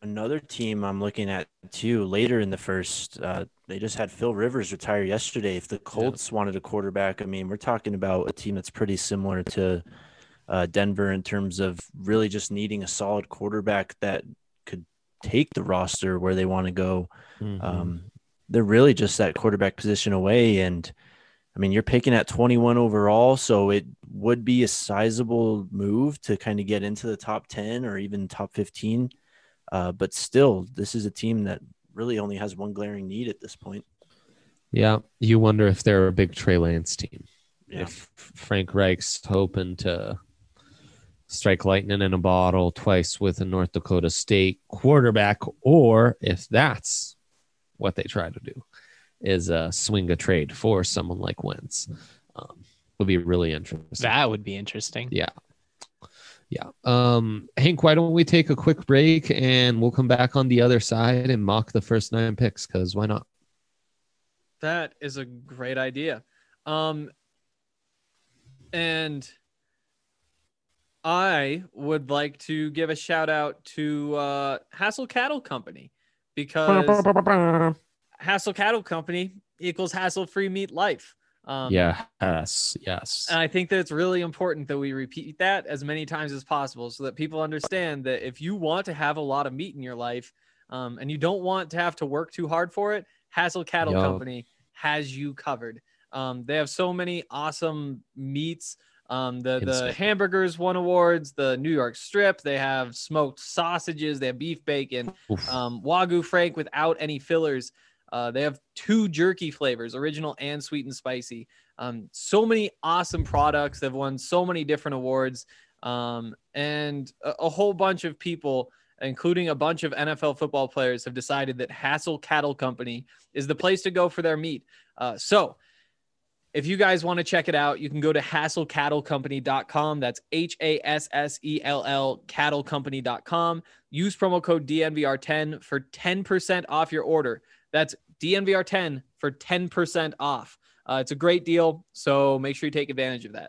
Another team I'm looking at too later in the first, uh, they just had Phil Rivers retire yesterday. If the Colts wanted a quarterback, I mean, we're talking about a team that's pretty similar to uh, Denver in terms of really just needing a solid quarterback that could take the roster where they want to go. Mhm. Um, they're really just that quarterback position away. And I mean, you're picking at twenty-one overall, so it would be a sizable move to kind of get into the top ten or even top fifteen. Uh, but still, this is a team that really only has one glaring need at this point. Yeah, you wonder if they're a big Trey Lance team. Yeah. If Frank Reich's hoping to strike lightning in a bottle twice with a North Dakota State quarterback, or if that's what they try to do, is uh, swing a trade for someone like Wentz. Um, would be really interesting. That would be interesting. Yeah. Yeah. Um, Hank, why don't we take a quick break and we'll come back on the other side and mock the first nine picks, because why not? That is a great idea. Um, and I would like to give a shout out to uh, Hassel Cattle Company, because Hassel Cattle Company equals hassle-free meat life. Um, Yes. Yes. And I think that it's really important that we repeat that as many times as possible so that people understand that if you want to have a lot of meat in your life um, and you don't want to have to work too hard for it, Hassel Cattle Yo. Company has you covered. Um, they have so many awesome meats. Um, the, the Insane. hamburgers won awards, the New York strip, they have smoked sausages, they have beef bacon, Oof. um, Wagyu Frank without any fillers. Uh, they have two jerky flavors, original and sweet and spicy. Um, so many awesome products. They've won so many different awards. Um, and a, a whole bunch of people, including a bunch of N F L football players, have decided that Hassel Cattle Company is the place to go for their meat. Uh, so if you guys want to check it out, you can go to hassel cattle company dot com. That's H A S S E L L cattle company dot com. Use promo code D N V R ten for ten percent off your order. That's D N V R ten for ten percent off. Uh, it's a great deal, so make sure you take advantage of that.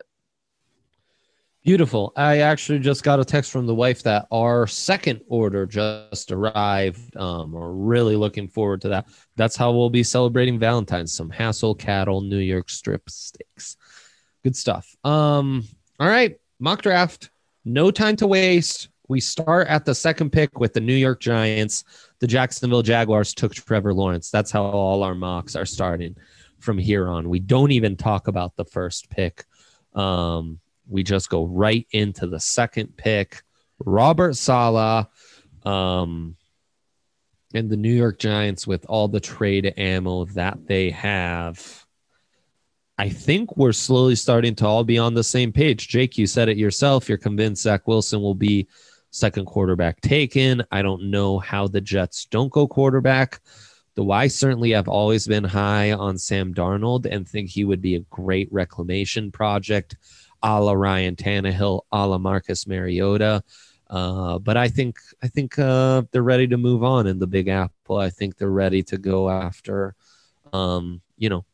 Beautiful. I actually just got a text from the wife that our second order just arrived. Um, we're really looking forward to that. That's how we'll be celebrating Valentine's. Some Hassel Cattle New York strip steaks. Good stuff. Um, all right, mock draft. No time to waste. We start at the second pick with the New York Giants. The Jacksonville Jaguars took Trevor Lawrence. That's how all our mocks are starting from here on. We don't even talk about the first pick. Um, we just go right into the second pick. Robert Saleh um, and the New York Giants, with all the trade ammo that they have, I think we're slowly starting to all be on the same page. Jake, you said it yourself. You're convinced Zach Wilson will be second quarterback taken. I don't know how the Jets don't go quarterback, though I certainly have always been high on Sam Darnold and think he would be a great reclamation project, a la Ryan Tannehill, a la Marcus Mariota. Uh, but I think I think uh, they're ready to move on in the Big Apple. I think they're ready to go after, um, you know,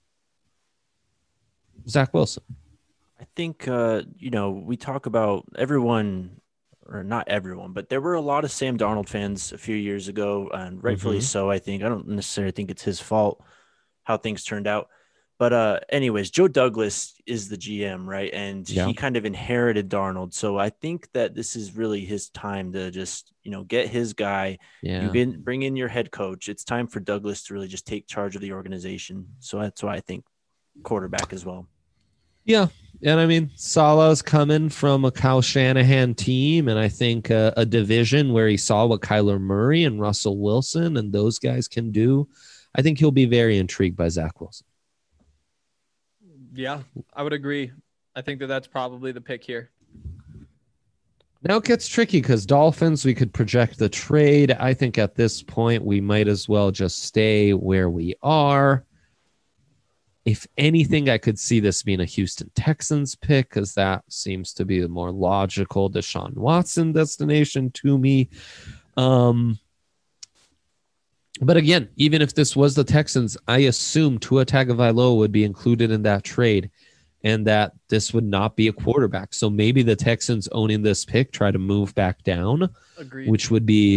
Zach Wilson. I think, uh, you know, we talk about everyone, or not everyone, but there were a lot of Sam Darnold fans a few years ago, and rightfully Mhm. so, I think. I don't necessarily think it's his fault how things turned out. But uh, anyways, Joe Douglas is the G M, right? And Yeah. he kind of inherited Darnold. So I think that this is really his time to just, you know, get his guy. Yeah. You can bring in your head coach. It's time for Douglas to really just take charge of the organization. So that's why I think quarterback as well. Yeah. And I mean, Salah's coming from a Kyle Shanahan team, and I think uh, a division where he saw what Kyler Murray and Russell Wilson and those guys can do. I think he'll be very intrigued by Zach Wilson. Yeah, I would agree. I think that that's probably the pick here. Now it gets tricky because Dolphins, we could project the trade. I think at this point, we might as well just stay where we are. If anything, I could see this being a Houston Texans pick because that seems to be the more logical Deshaun Watson destination to me. Um, but again, even if this was the Texans, I assume Tua Tagovailoa would be included in that trade and that this would not be a quarterback. So maybe the Texans owning this pick try to move back down, Agreed. which would be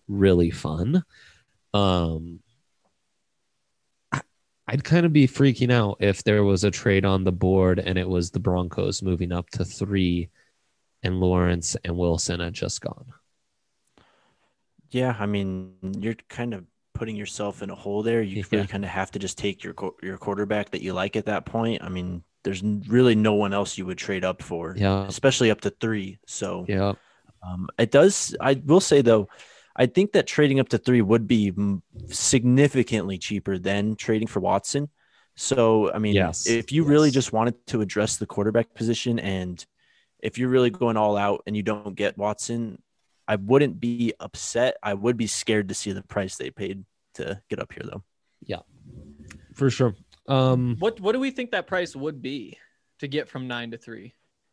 really fun. Um, I- I'd kind of be freaking out if there was a trade on the board and it was the Broncos moving up to three and Lawrence and Wilson had just gone. Yeah, I mean, you're kind of putting yourself in a hole there. You Yeah. really kind of have to just take your qu- your quarterback that you like at that point. I mean, there's n- really no one else you would trade up for, Yeah. especially up to three. So Yeah. um, it does. I will say though, I think that trading up to three would be m- significantly cheaper than trading for Watson. So I mean, Yes. if you really Yes. just wanted to address the quarterback position, and if you're really going all out and you don't get Watson, I wouldn't be upset. I would be scared to see the price they paid to get up here, though. For sure. Um, What what do we think that price would be to get from nine to three?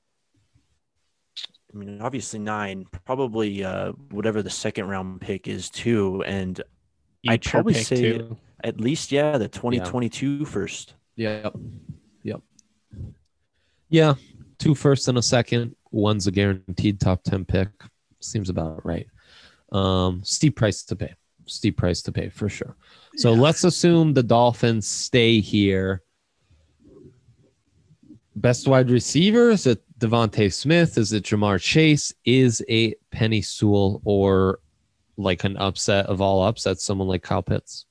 I mean, obviously nine, probably uh, whatever the second round pick is too, and I'd Future probably pick, say too. at least yeah, the twenty twenty-two first. Yep. Yep. Yeah. Two first and a second. One's a guaranteed top ten pick. Seems about right. Um, steep price to pay. Steep price to pay for sure. So Yeah. let's assume the Dolphins stay here. Best wide receiver? Is it Devontae Smith? Is it Jamar Chase? Is a Penny Sewell or like an upset of all upsets, someone like Kyle Pitts?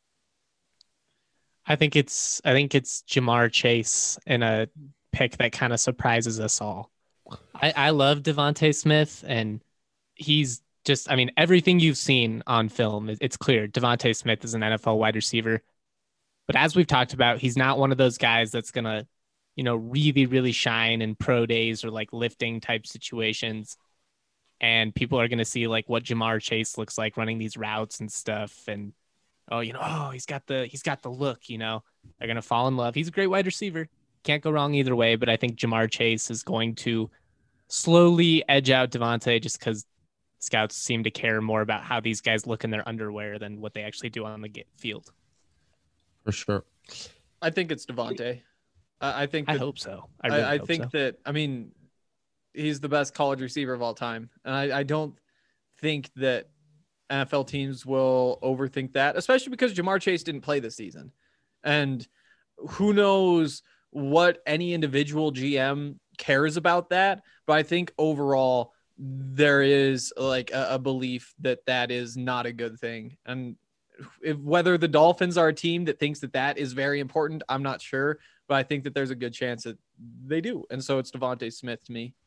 I think it's I think it's Jamar Chase in a pick that kind of surprises us all. I, I love Devontae Smith, and he's just I mean everything you've seen on film, it- it's clear Devontae Smith is an N F L wide receiver. But as we've talked about, he's not one of those guys that's gonna, you know, really really shine in pro days or like lifting type situations. And people are gonna see like what Jamar Chase looks like running these routes and stuff, and oh, you know, oh, he's got the he's got the look, you know. They're gonna fall in love. He's a great wide receiver. Can't go wrong either way, but I think Jamar Chase is going to slowly edge out Devontae just because scouts seem to care more about how these guys look in their underwear than what they actually do on the ga- field. For sure. I think it's Devontae. I I think I that, hope so. I, I, really I hope think so. that I mean he's the best college receiver of all time, and I, I don't think that N F L teams will overthink that, especially because Jamar Chase didn't play this season, and who knows what any individual G M cares about that. But I think overall there is like a, a belief that that is not a good thing, and if, whether the Dolphins are a team that thinks that that is very important, I'm not sure, but I think that there's a good chance that they do. And so it's Devontae Smith to me.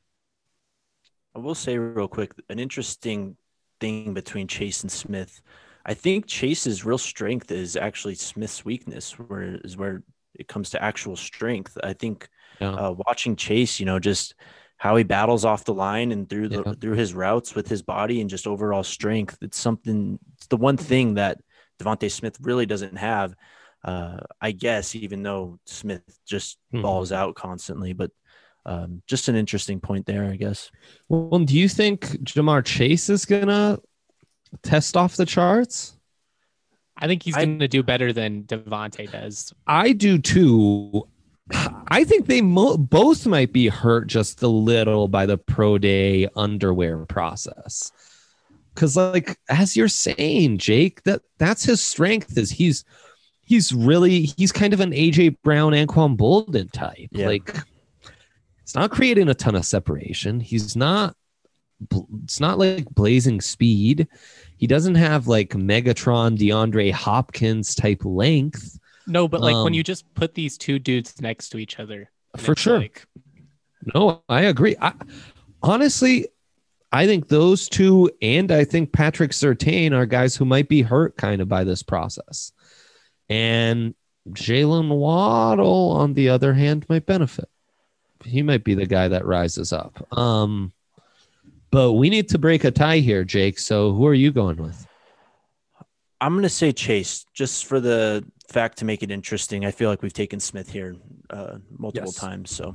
I will say real quick, an interesting thing between Chase and Smith. I think Chase's real strength is actually Smith's weakness, where is where it comes to actual strength. I think Yeah. uh, watching Chase, you know, just how he battles off the line and through the Yeah. through his routes with his body and just overall strength. It's something. It's the one thing that Devontae Smith really doesn't have. Uh, I guess, even though Smith just Mhm. balls out constantly, but um, just an interesting point there, I guess. Well, do you think Jamar Chase is gonna test off the charts? I think he's I- going to do better than Devontae does. I do too. I think they mo- both might be hurt just a little by the pro day underwear process. Because, like, as you're saying, Jake, that that's his strength. Is he's he's really he's kind of an A J Brown, Anquan Bolden type. Yeah. Like, it's not creating a ton of separation. He's not. It's not like blazing speed. He doesn't have like Megatron, DeAndre Hopkins type length. No, but like Um, when you just put these two dudes next to each other, and For it's sure. like, No, I agree. I, honestly, I think those two and I think Patrick Surtain are guys who might be hurt kind of by this process. And Jalen Waddle, on the other hand, might benefit. He might be the guy that rises up. Um, but we need to break a tie here, Jake. So who are you going with? I'm going to say Chase, just for the fact to make it interesting. I feel like we've taken Smith here uh, multiple Yes. times. So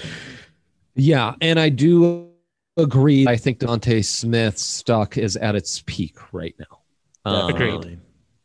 Yeah, and I do agree. I think Devontae Smith's stock is at its peak right now. Um, Agreed. definitely.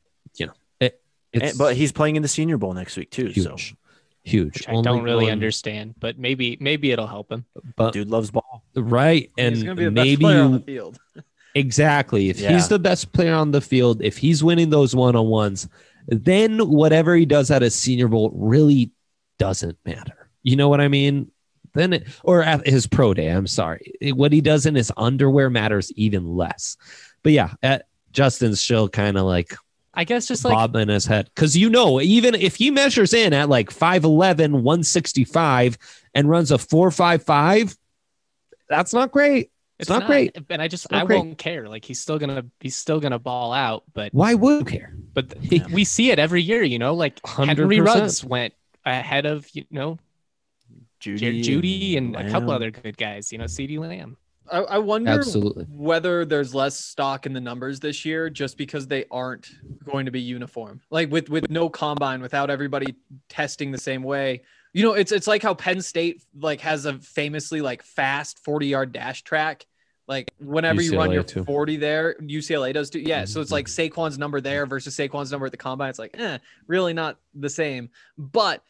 It's And- but he's playing in the Senior Bowl next week too. huge, So huge. which I Only don't really going- understand, but maybe maybe it'll help him. But dude loves ball. right, and He's going to be the best maybe player on you, the field. Exactly. If Yeah. he's the best player on the field, if he's winning those one-on-ones, then whatever he does at a Senior Bowl really doesn't matter. You know what I mean? Then it, or at his pro day, I'm sorry. It- what he does in his underwear matters even less. But yeah, at, Justin's still kind of like I guess just like bob in his head. Because, you know, even if he measures in at like five eleven, one sixty-five and runs a four five five, that's not great. It's, not, great. And I just not I great. won't care. Like he's still gonna he's still gonna ball out. But Why would you care? but Yeah. we see it every year. You know, like one hundred Henry percent. Ruggs went ahead of you know Judy, Judy and a couple Lamb. other good guys. You know, CeeDee Lamb. I, I wonder Absolutely. whether there's less stock in the numbers this year just because they aren't going to be uniform. Like with with no combine, without everybody testing the same way. You know, it's it's like how Penn State like has a famously like fast forty yard dash track. Like whenever you run U C L A your too. forty there, U C L A does too. Yeah, so it's like Saquon's number there versus Saquon's number at the combine. It's like, eh, really not the same. But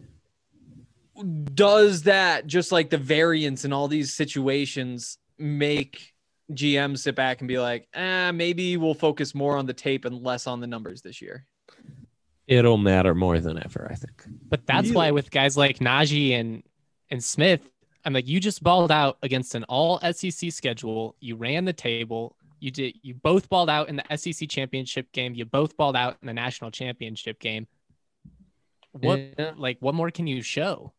does that, just like the variance in all these situations, make G M sit back and be like, eh, maybe we'll focus more on the tape and less on the numbers this year? It'll matter more than ever, I think. But that's why with guys like Najee and and Smith, I'm like, you just balled out against an all S E C schedule. You ran the table. You did. You both balled out in the S E C championship game. You both balled out in the national championship game. What Yeah. like what more can you show?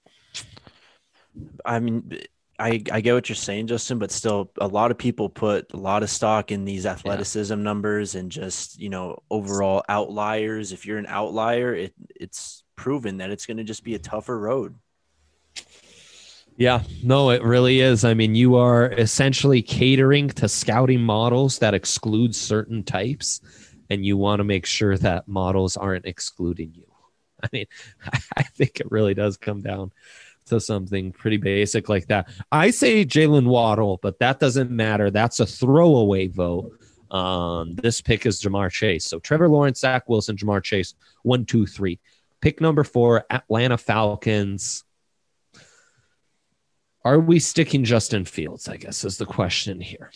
I mean, I, I get what you're saying, Justin, but still a lot of people put a lot of stock in these athleticism numbers and just, you know, overall outliers. If you're an outlier, it it's proven that it's going to just be a tougher road. Yeah, no, it really is. I mean, you are essentially catering to scouting models that exclude certain types, and you want to make sure that models aren't excluding you. I mean, I think it really does come down to something pretty basic like that. I say Jalen Waddle, but that doesn't matter. That's a throwaway vote. Um, this pick is Jamar Chase. So Trevor Lawrence, Zach Wilson, Jamar Chase, one, two, three. Pick number four, Atlanta Falcons. Are we sticking Justin Fields, I guess, is the question here.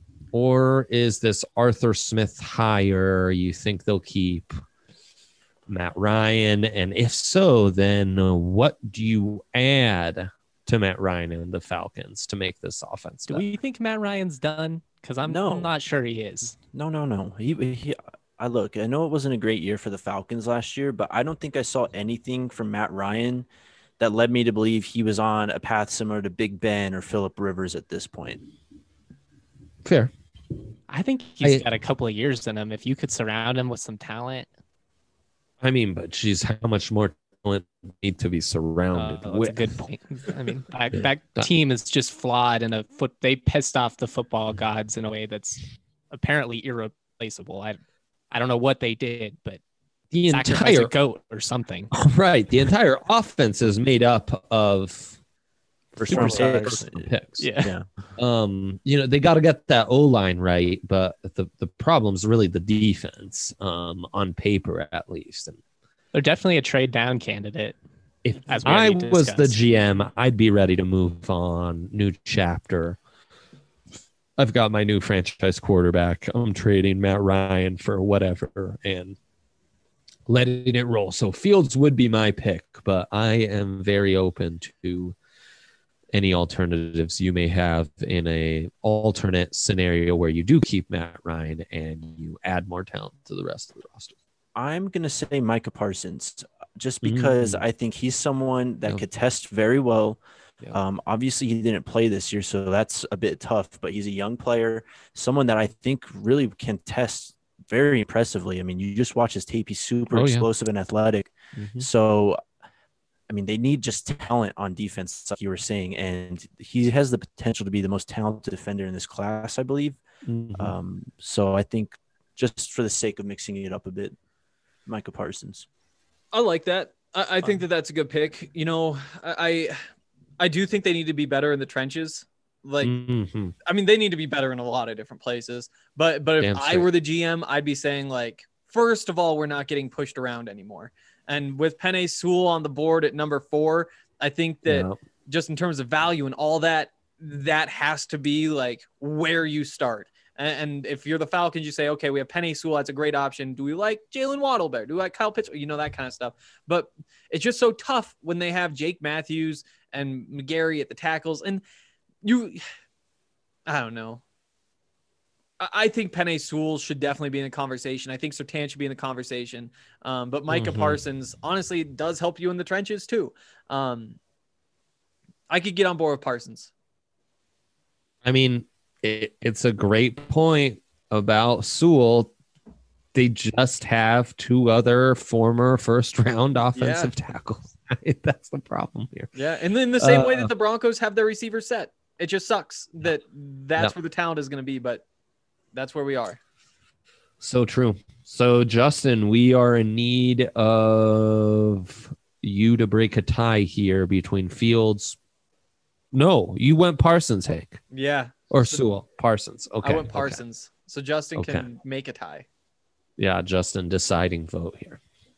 Or is this Arthur Smith higher? You think they'll keep Matt Ryan? And if so, then uh, what do you add to Matt Ryan and the Falcons to make this offense Do better? we think Matt Ryan's done? Because I'm, No. I'm not sure he is. No, no, no. He, he, I look, I know it wasn't a great year for the Falcons last year, but I don't think I saw anything from Matt Ryan that led me to believe he was on a path similar to Big Ben or Phillip Rivers at this point. Fair. I think he's I- got a couple of years in him. If you could surround him with some talent, I mean, but geez, how much more talent need to be uh, surrounded that's with? a good point. I mean, that, Yeah. that team is just flawed in a foot. They pissed off the football gods in a way that's apparently irreplaceable. I, I don't know what they did, but The sacrifice entire a goat or something. right, the entire offense is made up of First round superstars picks. picks. Yeah. Yeah. Um, you know, they got to get that O line right, but the the problem's really the defense, um, on paper at least. And They're definitely a trade down candidate. if As we I already was the discussed. G M, I'd be ready to move on. New chapter. I've got my new franchise quarterback. I'm trading Matt Ryan for whatever and letting it roll. So Fields would be my pick, but I am very open to any alternatives you may have in a alternate scenario where you do keep Matt Ryan and you add more talent to the rest of the roster. I'm going to say Micah Parsons just because Mm. I think he's someone that Yeah. could test very well. Yeah. Um, obviously, he didn't play this year, so that's a bit tough, but he's a young player, someone that I think really can test very impressively. I mean, you just watch his tape. He's super Oh, yeah. explosive and athletic. Mhm. So, I mean, they need just talent on defense, like you were saying, and he has the potential to be the most talented defender in this class, I believe. Mhm. Um, so I think just for the sake of mixing it up a bit, Micah Parsons. I like that. I, I think that that's a good pick. You know, I, I I do think they need to be better in the trenches. Like, Mhm. I mean, they need to be better in a lot of different places. But but if Damn I straight. were the G M, I'd be saying, like, first of all, we're not getting pushed around anymore. And with Penei Sewell on the board at number four, I think that Yeah. just in terms of value and all that, that has to be like where you start. And, and if you're the Falcons, you say, okay, we have Penei Sewell. That's a great option. Do we like Jalen Waddle better? Do we like Kyle Pitts? You know, that kind of stuff. But it's just so tough when they have Jake Matthews and McGarry at the tackles. And you, I don't know. I, I think Penei Sewell should definitely be in the conversation. I think Surtain should be in the conversation. Um, but Micah Mhm. Parsons, honestly, does help you in the trenches too. Um, I could get on board with Parsons. I mean, it, it's a great point about Sewell. They just have two other former first round offensive tackles. That's the problem here. Yeah. And then the same way Uh, that the Broncos have their receiver set, it just sucks that that's Yep. where the talent is going to be, but that's where we are. So true. So, Justin, we are in need of you to break a tie here between Fields. No, you went Parsons, Hank. Yeah. Or Sewell. Parsons. Okay. I went okay. Parsons. So Justin Okay. can make a tie. Yeah, Justin, deciding vote here.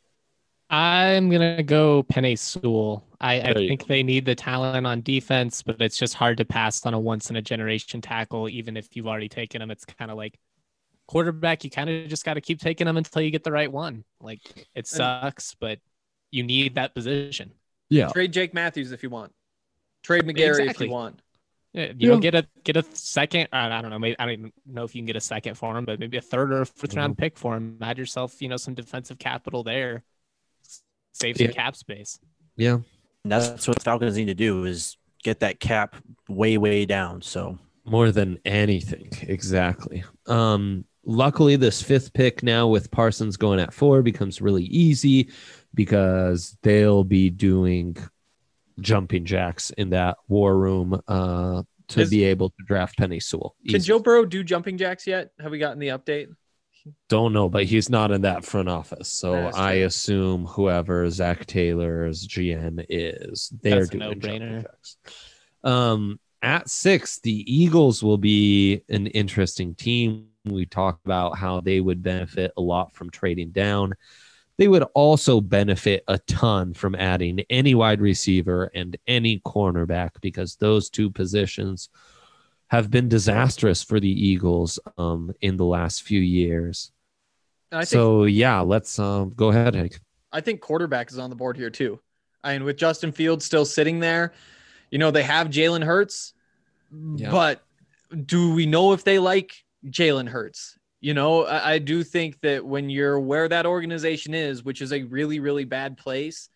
I'm gonna go Penei Sewell. I, I There you think they need the talent on defense, but it's just hard to pass on a once in a generation tackle, even if you've already taken them. It's kind of like quarterback, you kind of just got to keep taking them until you get the right one. Like it sucks, but you need that position. Yeah. Trade Jake Matthews if you want. Trade McGarry if Exactly. you want. Yeah, You know, get a get a second. I I don't know. Maybe I don't even know if you can get a second for him, but maybe a third or a fourth Mm-hmm. round pick for him. Add yourself, you know, some defensive capital there. Save some Yeah. cap space. Yeah. And that's what the Falcons need to do is get that cap way, way down. So More than anything. Exactly. Um, luckily, this fifth pick now with Parsons going at four becomes really easy because they'll be doing jumping jacks in that war room uh, to Is- be able to draft Penei Sewell. Can Easy. Joe Burrow do jumping jacks yet? Have we gotten the update? Don't know, but he's not in that front office. So That's I true. assume whoever Zach Taylor's G M is, they're That's a doing jumping no-brainer. jacks. Um, at six, the Eagles will be an interesting team. We talked about how they would benefit a lot from trading down. They would also benefit a ton from adding any wide receiver and any cornerback because those two positions have been disastrous for the Eagles um, in the last few years. And I think So, yeah, let's um, go ahead, Hank. I think quarterback is on the board here too. I mean, with Justin Fields still sitting there, you know, they have Jalen Hurts, Yeah. but do we know if they like Jalen Hurts? You know, I, I do think that when you're where that organization is, which is a really, really bad place,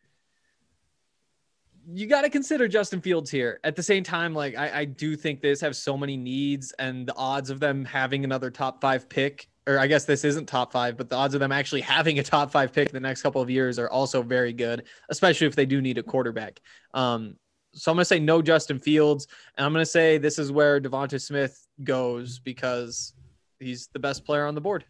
you got to consider Justin Fields here. At the same time, like I, I do think this have so many needs, and the odds of them having another top five pick, or I guess this isn't top five, but the odds of them actually having a top five pick in the next couple of years are also very good, especially if they do need a quarterback. Um, so I'm going to say no Justin Fields, and I'm going to say this is where Devonta Smith goes because he's the best player on the board.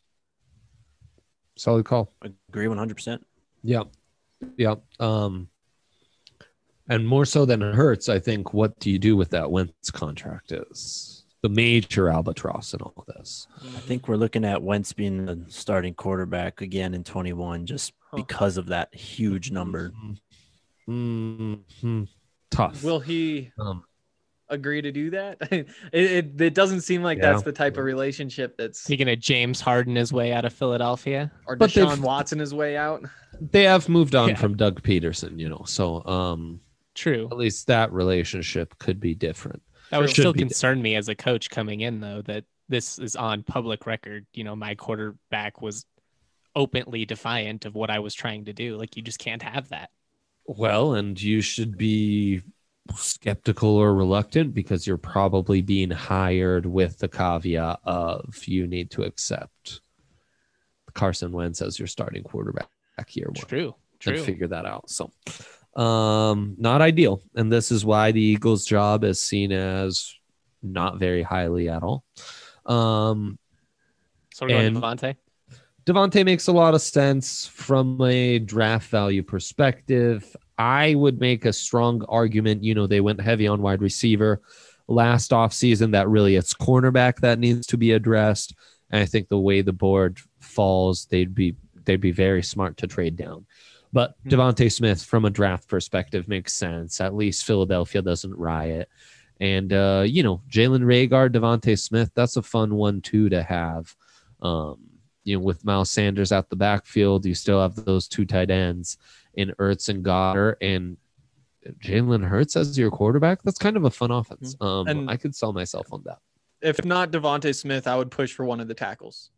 Solid call. agree one hundred percent. Yeah. Yeah. Um, and more so than it hurts, I think what do you do with that Wentz contract is the major albatross in all this. I think we're looking at Wentz being the starting quarterback again in twenty-one just because of that huge number. Mm-hmm. Tough. Will he Um, agree to do that? it, it, it doesn't seem like Yeah. that's the type of relationship that's He gonna James Harden his way out of Philadelphia. or But Deshaun they've- Watson his way out. they have moved on Yeah. from Doug Peterson, you know, so um, True. at least that relationship could be different. That would Should still be. concern me as a coach coming in, though, that this is on public record. You know, my quarterback was openly defiant of what I was trying to do. Like, you just can't have that. Well, and you should be skeptical or reluctant because you're probably being hired with the caveat of you need to accept Carson Wentz as your starting quarterback year one True. and True. figure that out. So, um, not ideal. And this is why the Eagles' job is seen as not very highly at all. Um, So we're going and- Devontae. Devontae makes a lot of sense from a draft value perspective. I would make a strong argument. You know, they went heavy on wide receiver last offseason. That really it's cornerback that needs to be addressed. And I think the way the board falls, they'd be they'd be very smart to trade down. But Hmm. Devontae Smith, from a draft perspective, makes sense. At least Philadelphia doesn't riot. And, uh, you know, Jalen Rager, Devontae Smith, that's a fun one, too, to have. Um, you know, with Miles Sanders at the backfield, you still have those two tight ends in Ertz and Goddard, and Jalen Hurts as your quarterback. That's kind of a fun offense. Um, And- I could sell myself on that. If not Devontae Smith, I would push for one of the tackles.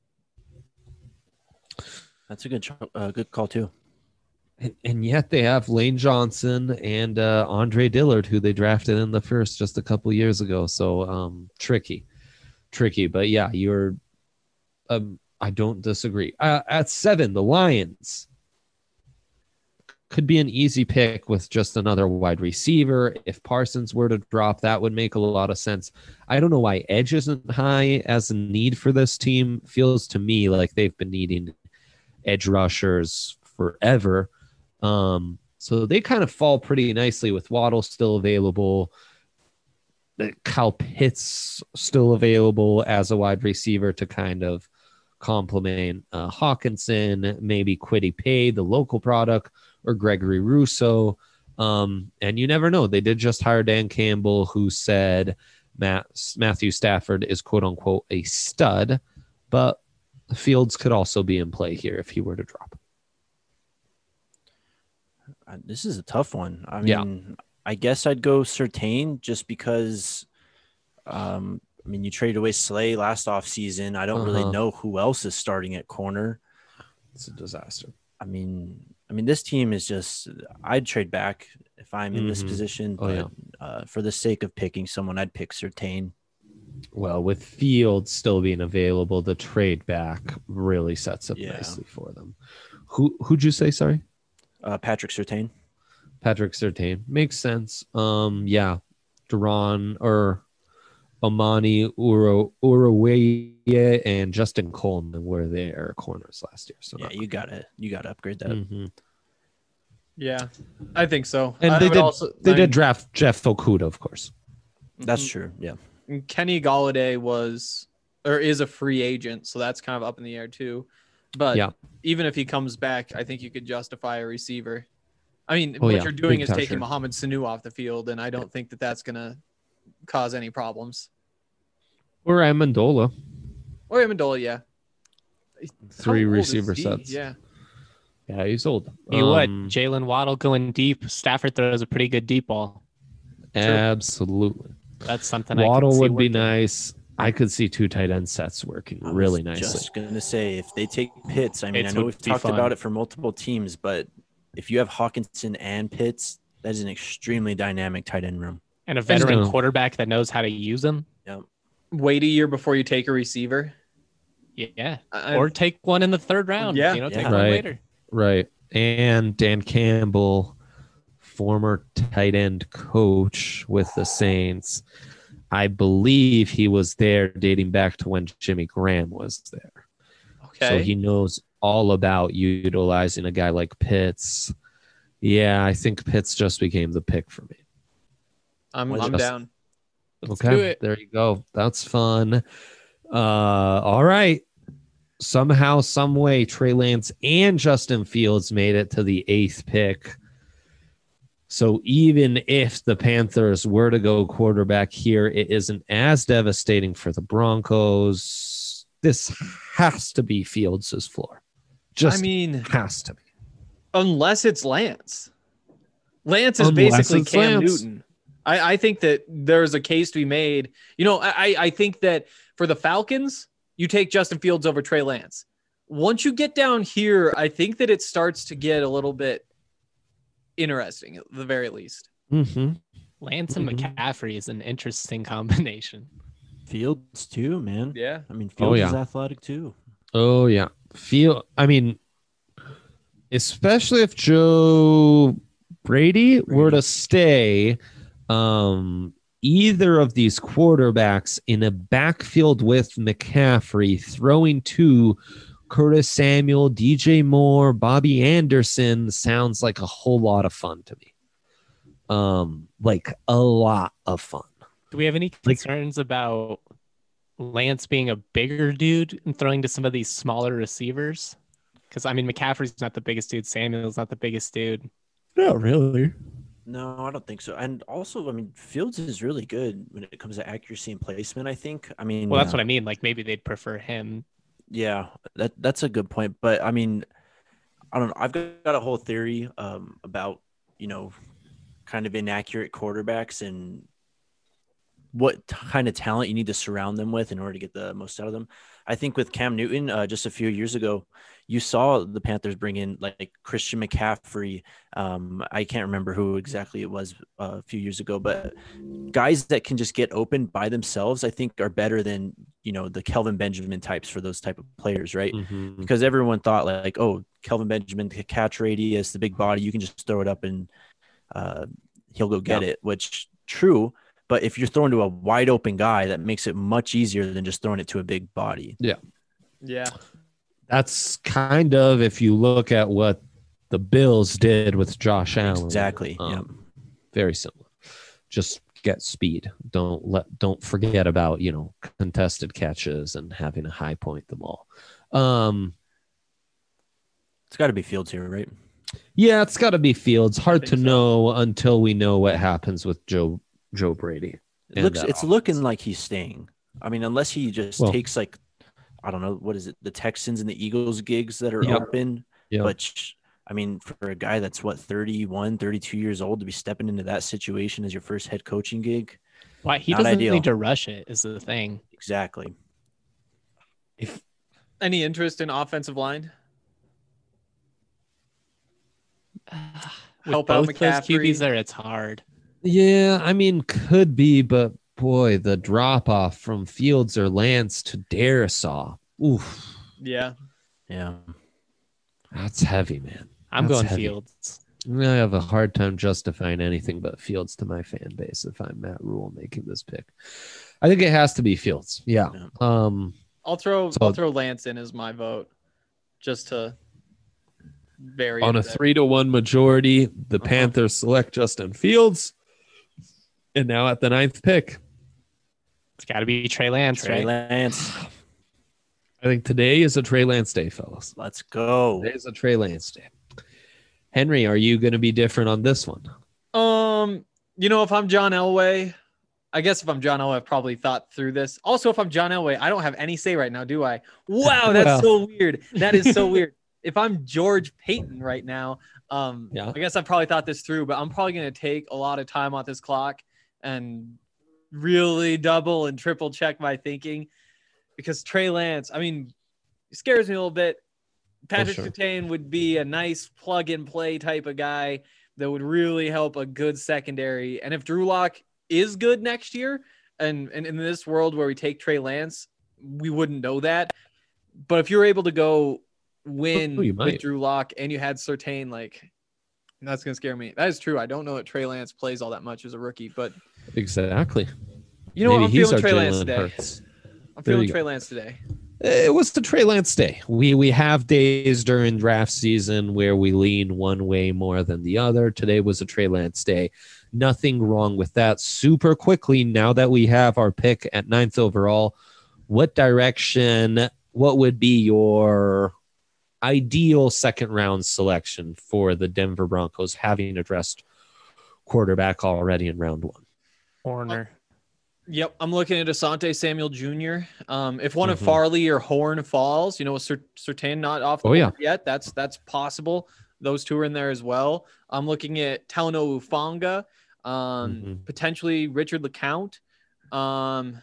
That's a good cho- uh, good call too. And, and yet they have Lane Johnson and uh, Andre Dillard, who they drafted in the first just a couple years ago. So um, tricky, tricky. But yeah, you're. Um, I don't disagree. Uh, at seven, the Lions could be an easy pick with just another wide receiver. If Parsons were to drop, that would make a lot of sense. I don't know why edge isn't high as a need for this team. Feels to me like they've been needing edge rushers forever. Um, so they kind of fall pretty nicely with Waddle still available. Kyle Pitts still available as a wide receiver to kind of complement uh, Hawkinson, maybe Kwity Paye, the local product, or Gregory Rousseau. Um, and you never know. They did just hire Dan Campbell, who said Matt, Matthew Stafford is quote unquote a stud, but Fields could also be in play here if he were to drop. Uh, This is a tough one. I Yeah. mean, I guess I'd go Surtain just because. Um, I mean, you traded away Slay last offseason. I don't Uh-huh. really know who else is starting at corner. It's a disaster. I mean, I mean, this team is just. I'd trade back if I'm in this Mhm. position, Oh, but yeah. uh, for the sake of picking someone, I'd pick Surtain. Well, with Fields still being available, the trade back really sets up Yeah. nicely for them. Who who'd you say? Sorry, Uh, Patrick Surtain. Patrick Surtain. Makes sense. Um, yeah, Duran or Amani Uro Uruweye and Justin Coleman were their corners last year. So Yeah, not you gotta you gotta upgrade that. Mhm. Yeah, I think so. And I they would did also- they I did mean, draft Jeff Okuda, of course. That's mhm. true. Yeah. And Kenny Galladay was or is a free agent, so that's kind of up in the air too. But Yeah. even if he comes back, I think you could justify a receiver. I mean, Oh, what yeah, you're doing big is time, taking sure. Mohamed Sanu off the field, and I don't think that that's gonna cause any problems. Or Amendola, Or Amendola, yeah. three How old is receiver he? sets. Yeah. Yeah, he's old. You would. Um, Jalen Waddle going deep. Stafford throws a pretty good deep ball. Absolutely. That's something I Waddle could see would be working. nice. I could see two tight end sets working I was really nicely. Just gonna say if they take Pitts, I mean, Pitts I know would we've be talked fun. about it for multiple teams, but if you have Hawkinson and Pitts, that is an extremely dynamic tight end room. And a veteran gonna- quarterback that knows how to use them. Wait a year before you take a receiver. Yeah. I- Or take one in the third round. Yeah. You know, take Yeah. one Right. later. Right. And Dan Campbell, former tight end coach with the Saints. I believe he was there dating back to when Jimmy Graham was there. Okay. So he knows all about utilizing a guy like Pitts. Yeah, I think Pitts just became the pick for me. I'm, Was I'm just- down. Let's okay, do it. there you go. That's fun. Uh, all right. Somehow, some way, Trey Lance and Justin Fields made it to the eighth pick. So even if the Panthers were to go quarterback here, it isn't as devastating for the Broncos. This has to be Fields' floor. Just I mean, has to be. unless it's Lance. Lance is Unless basically it's Cam Lance. Newton. I, I think that there's a case to be made. You know, I, I think that for the Falcons, you take Justin Fields over Trey Lance. Once you get down here, I think that it starts to get a little bit interesting at the very least. Mm-hmm. Lance and Mhm. McCaffrey is an interesting combination. Fields too, man. Yeah. I mean, Fields yeah. is athletic too. Oh yeah, feel. I mean, especially if Joe Brady, were to stay, um, either of these quarterbacks in a backfield with McCaffrey, throwing to Curtis Samuel, D J Moore, Bobby Anderson sounds like a whole lot of fun to me. Um, like a lot of fun. Do we have any Like- concerns about Lance being a bigger dude and throwing to some of these smaller receivers? Because I mean, McCaffrey's not the biggest dude. Samuel's not the biggest dude. Not really. No, I don't think so. And also, I mean, Fields is really good when it comes to accuracy and placement, I think. I mean, Well, that's uh, what I mean. Like maybe they'd prefer him. yeah, that that's a good point. But I mean, I don't know. I've got, got a whole theory um, about, you know, kind of inaccurate quarterbacks and what kind of talent you need to surround them with in order to get the most out of them. I think with Cam Newton, uh, just a few years ago, you saw the Panthers bring in like Christian McCaffrey. Um, I can't remember who exactly it was uh, a few years ago, but guys that can just get open by themselves, I think are better than, you know, the Kelvin Benjamin types for those type of players, right? Mhm. Because everyone thought like, oh, Kelvin Benjamin, the catch radius, the big body, you can just throw it up and uh, he'll go get Yeah. it, which true. But if you're throwing to a wide open guy, that makes it much easier than just throwing it to a big body. Yeah. That's kind of, if you look at what the Bills did with Josh Allen. Exactly. um, Yeah. Very similar. Just get speed. Don't let don't forget about, you know, contested catches and having to high point the ball. Um, It's got to be Fields here, right? yeah, it's got to be Fields. Hard to think so. know until we know what happens with Joe Joe Brady. It And looks that it's offense. looking like he's staying. I mean, unless he just Well- takes like, I don't know, what is it, the Texans and the Eagles gigs that are Yep. open. Yeah. But sh- I mean, for a guy that's what, thirty-one, thirty-two years old to be stepping into that situation as your first head coaching gig. Why he Not doesn't ideal. need to rush it is the thing. Exactly. If Any interest in offensive line? With Help out both those Q McCaffrey. Bs there, it's hard. Yeah, I mean, could be, but boy, the drop off from Fields or Lance to Darisaw. Oof, Yeah. Yeah. that's heavy, man. I'm That's going heavy. Fields. I have a hard time justifying anything but Fields to my fan base if I'm Matt Rule making this pick. I think it has to be Fields. Yeah. Yeah. Um, I'll throw So- I'll throw Lance in as my vote, just to vary on it a bit. three to one majority, the Uh-huh. Panthers select Justin Fields. And now at the ninth pick, It's got to be Trey Lance, Trey right? Lance. I think today is a Trey Lance day, fellas. Let's go. Today is a Trey Lance day. Henry, are you going to be different on this one? Um, you know, if I'm John Elway, I guess if I'm John Elway, I've probably thought through this. Also, if I'm John Elway, I don't have any say right now, do I? Wow, that's Well. so weird. That is so weird. If I'm George Payton right now, um, Yeah. I guess I've probably thought this through, but I'm probably going to take a lot of time off this clock and really double and triple check my thinking, because Trey Lance, I mean, he scares me a little bit. Patrick sure. Surtain would be a nice plug and play type of guy that would really help a good secondary. And if Drew Lock is good next year, and, and in this world where we take Trey Lance, we wouldn't know that. But if you're able to go win Oh, you with might. Drew Lock and you had Surtain, like, that's gonna scare me. That is true. I don't know that Trey Lance plays all that much as a rookie, but Exactly. you know what? Maybe I'm he's feeling our Trey Lance Jalen today. Hurts. I'm There feeling you Trey go. Lance today. It was the Trey Lance day. We we have days during draft season where we lean one way more than the other. Today was a Trey Lance day. Nothing wrong with that. Super quickly, now that we have our pick at ninth overall, what direction, what would be your ideal second round selection for the Denver Broncos, having addressed quarterback already in round one? Horner. Yep, I'm looking at Asante Samuel Junior Um, if one of Mhm. Farley or Horn falls, you know, Sur- Surtain not off the Oh, yeah. board yet. That's that's possible. Those two are in there as well. I'm looking at Talano Ufanga, um, Mhm. potentially Richard LeCount. Um,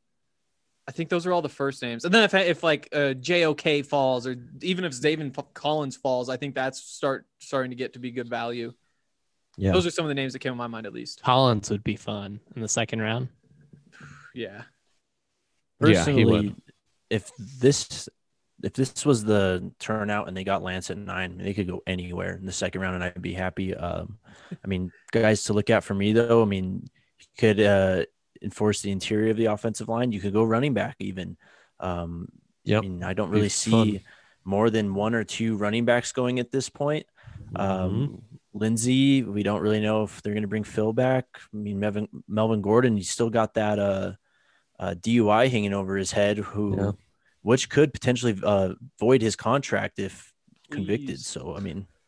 I think those are all the first names. And then if if like uh, J O K falls, or even if Zaven Collins falls, I think that's start starting to get to be good value. Yeah. Those are some of the names that came to my mind, at least. Collins would be fun in the second round. Yeah. Yeah, he Personally, would. if this if this was the turnout and they got Lance at nine, they could go anywhere in the second round, and I'd be happy. Um, I mean, guys to look at for me though. I mean, you could uh, enforce the interior of the offensive line. You could go running back even. Um, Yep. I mean, I don't Be really fun. see more than one or two running backs going at this point. Um, Lindsey, we don't really know if they're going to bring Phil back. I mean, Melvin, Melvin Gordon, he's still got that uh, uh, D U I hanging over his head, who, Yeah. which could potentially uh, void his contract if convicted. Please. So, I mean,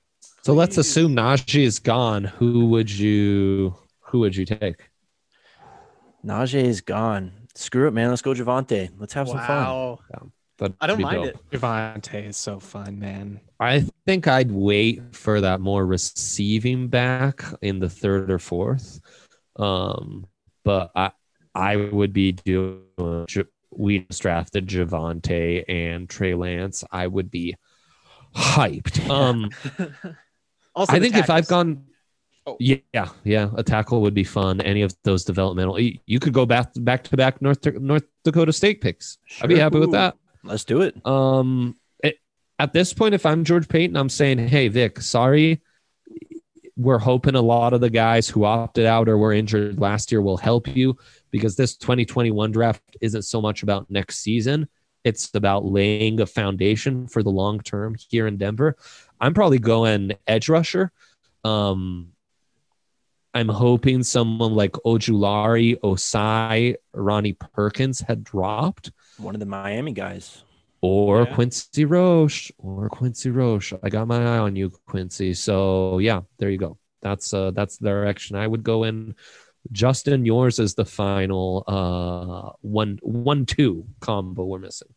So let's Please. assume Najee is gone. Who would you who would you take? Najee is gone. Screw it, man. Let's go Javante. Let's have some fun. Wow. That'd I don't be mind dope. it. Javante is so fun, man. I think I'd wait for that more receiving back in the third or fourth. Um, but I I would be doing we just drafted Javante and Trey Lance. I would be hyped. Um Also, I the think if I've tackles. gone Oh. yeah, yeah, a tackle would be fun. Any of those developmental you, you could go back back to back North North Dakota State picks. I'd be Sure. happy with Ooh. that. Let's do it. Um, it, at this point, if I'm George Payton, I'm saying, hey, Vic, sorry. We're hoping a lot of the guys who opted out or were injured last year will help you because this twenty twenty-one draft isn't so much about next season. It's about laying a foundation for the long term here in Denver. I'm probably going edge rusher. Um, I'm hoping someone like Ojulari, Osai, Ronnie Perkins had dropped. One of the Miami guys. Or Yeah. Quincy Roche, or Quincy Roche. I got my eye on you, Quincy. So yeah, there you go. That's uh, that's the direction I would go in. Justin, yours is the final uh one one two combo we're missing.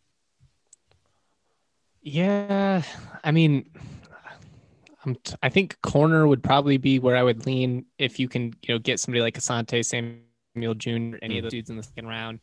Yeah, I mean, I'm t- I think corner would probably be where I would lean if you can, you know, get somebody like Asante Samuel Junior, any of those dudes in the second round.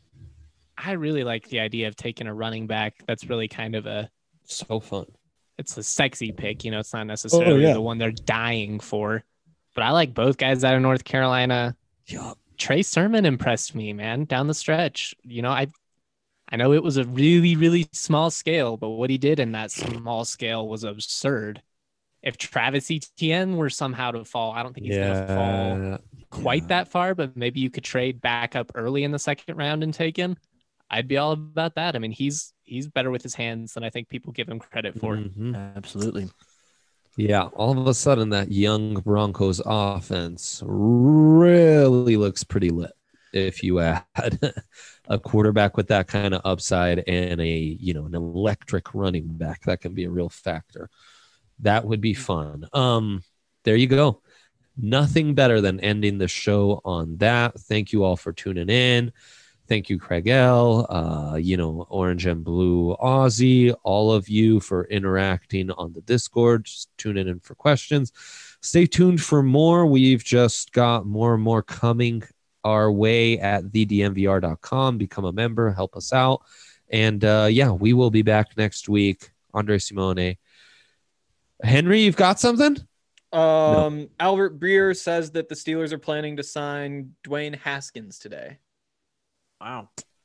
I really like the idea of taking a running back. That's really kind of a So fun. it's a sexy pick. You know, it's not necessarily yeah. the one they're dying for. But I like both guys out of North Carolina. Yeah. Trey Sermon impressed me, man, down the stretch. You know, I I know it was a really, really small scale, but what he did in that small scale was absurd. If Travis Etienne were somehow to fall, I don't think he's going to fall Yeah. quite that far, but maybe you could trade back up early in the second round and take him. I'd be all about that. I mean, he's he's better with his hands than I think people give him credit for. Mhm. Absolutely. Yeah, all of a sudden that young Broncos offense really looks pretty lit. If you add a quarterback with that kind of upside and a, you know, an electric running back, that can be a real factor. That would be fun. Um, there you go. Nothing better than ending the show on that. Thank you all for tuning in. Thank you, Craig L, uh, you know, Orange and Blue Aussie, all of you for interacting on the Discord, just tuning in for questions. Stay tuned for more. We've just got more and more coming our way at the d m v r dot com. Become a member, help us out. And uh, yeah, we will be back next week. Andre Simone. Henry, you've got something? Um, Albert Breer says that the Steelers are planning to sign Dwayne Haskins today. Wow.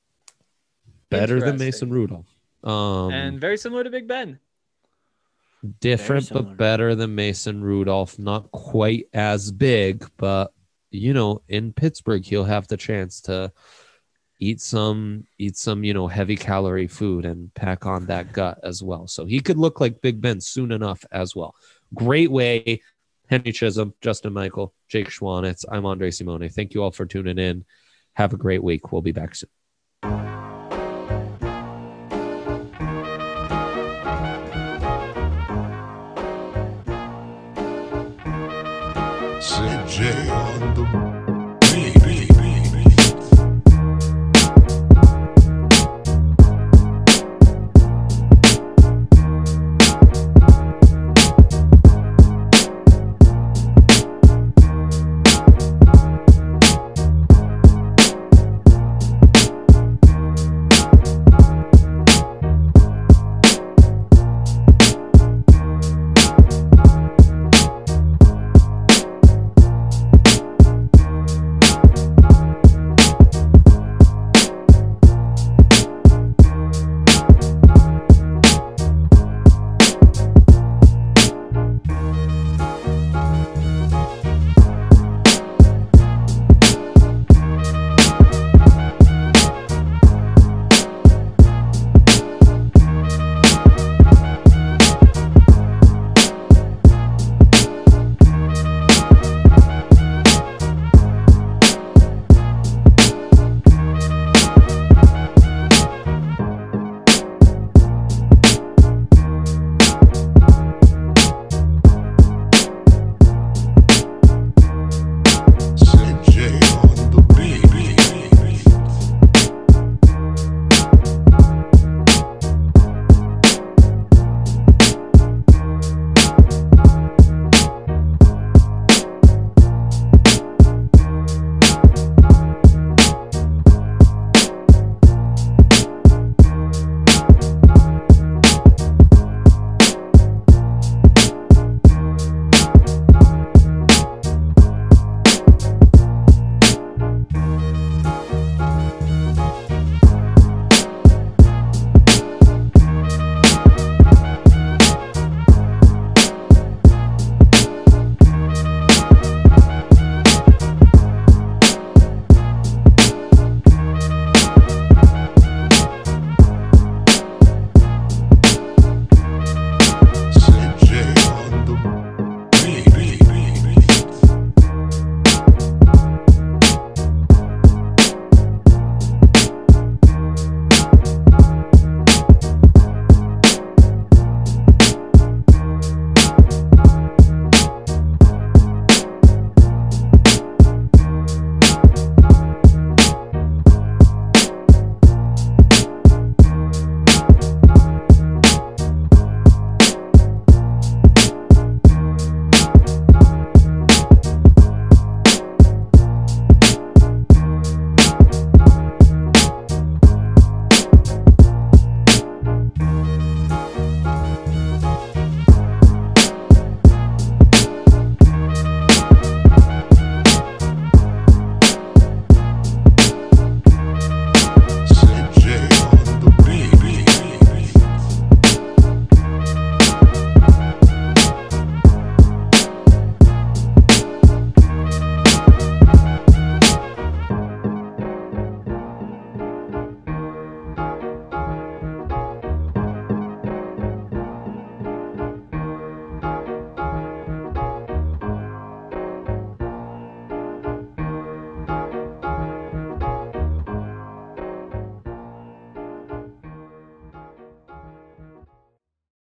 Better than Interesting. Mason Rudolph. Um, And very similar to Big Ben. different, similar. but better than Mason Rudolph. Not quite as big, but you know, in Pittsburgh, he'll have the chance to eat some, eat some, you know, heavy calorie food and pack on that gut as well. So he could look like Big Ben soon enough as well. Great way. Henry Chisholm, Justin Michael, Jake Schwanitz. I'm Andre Simone. Thank you all for tuning in. Have a great week. We'll be back soon.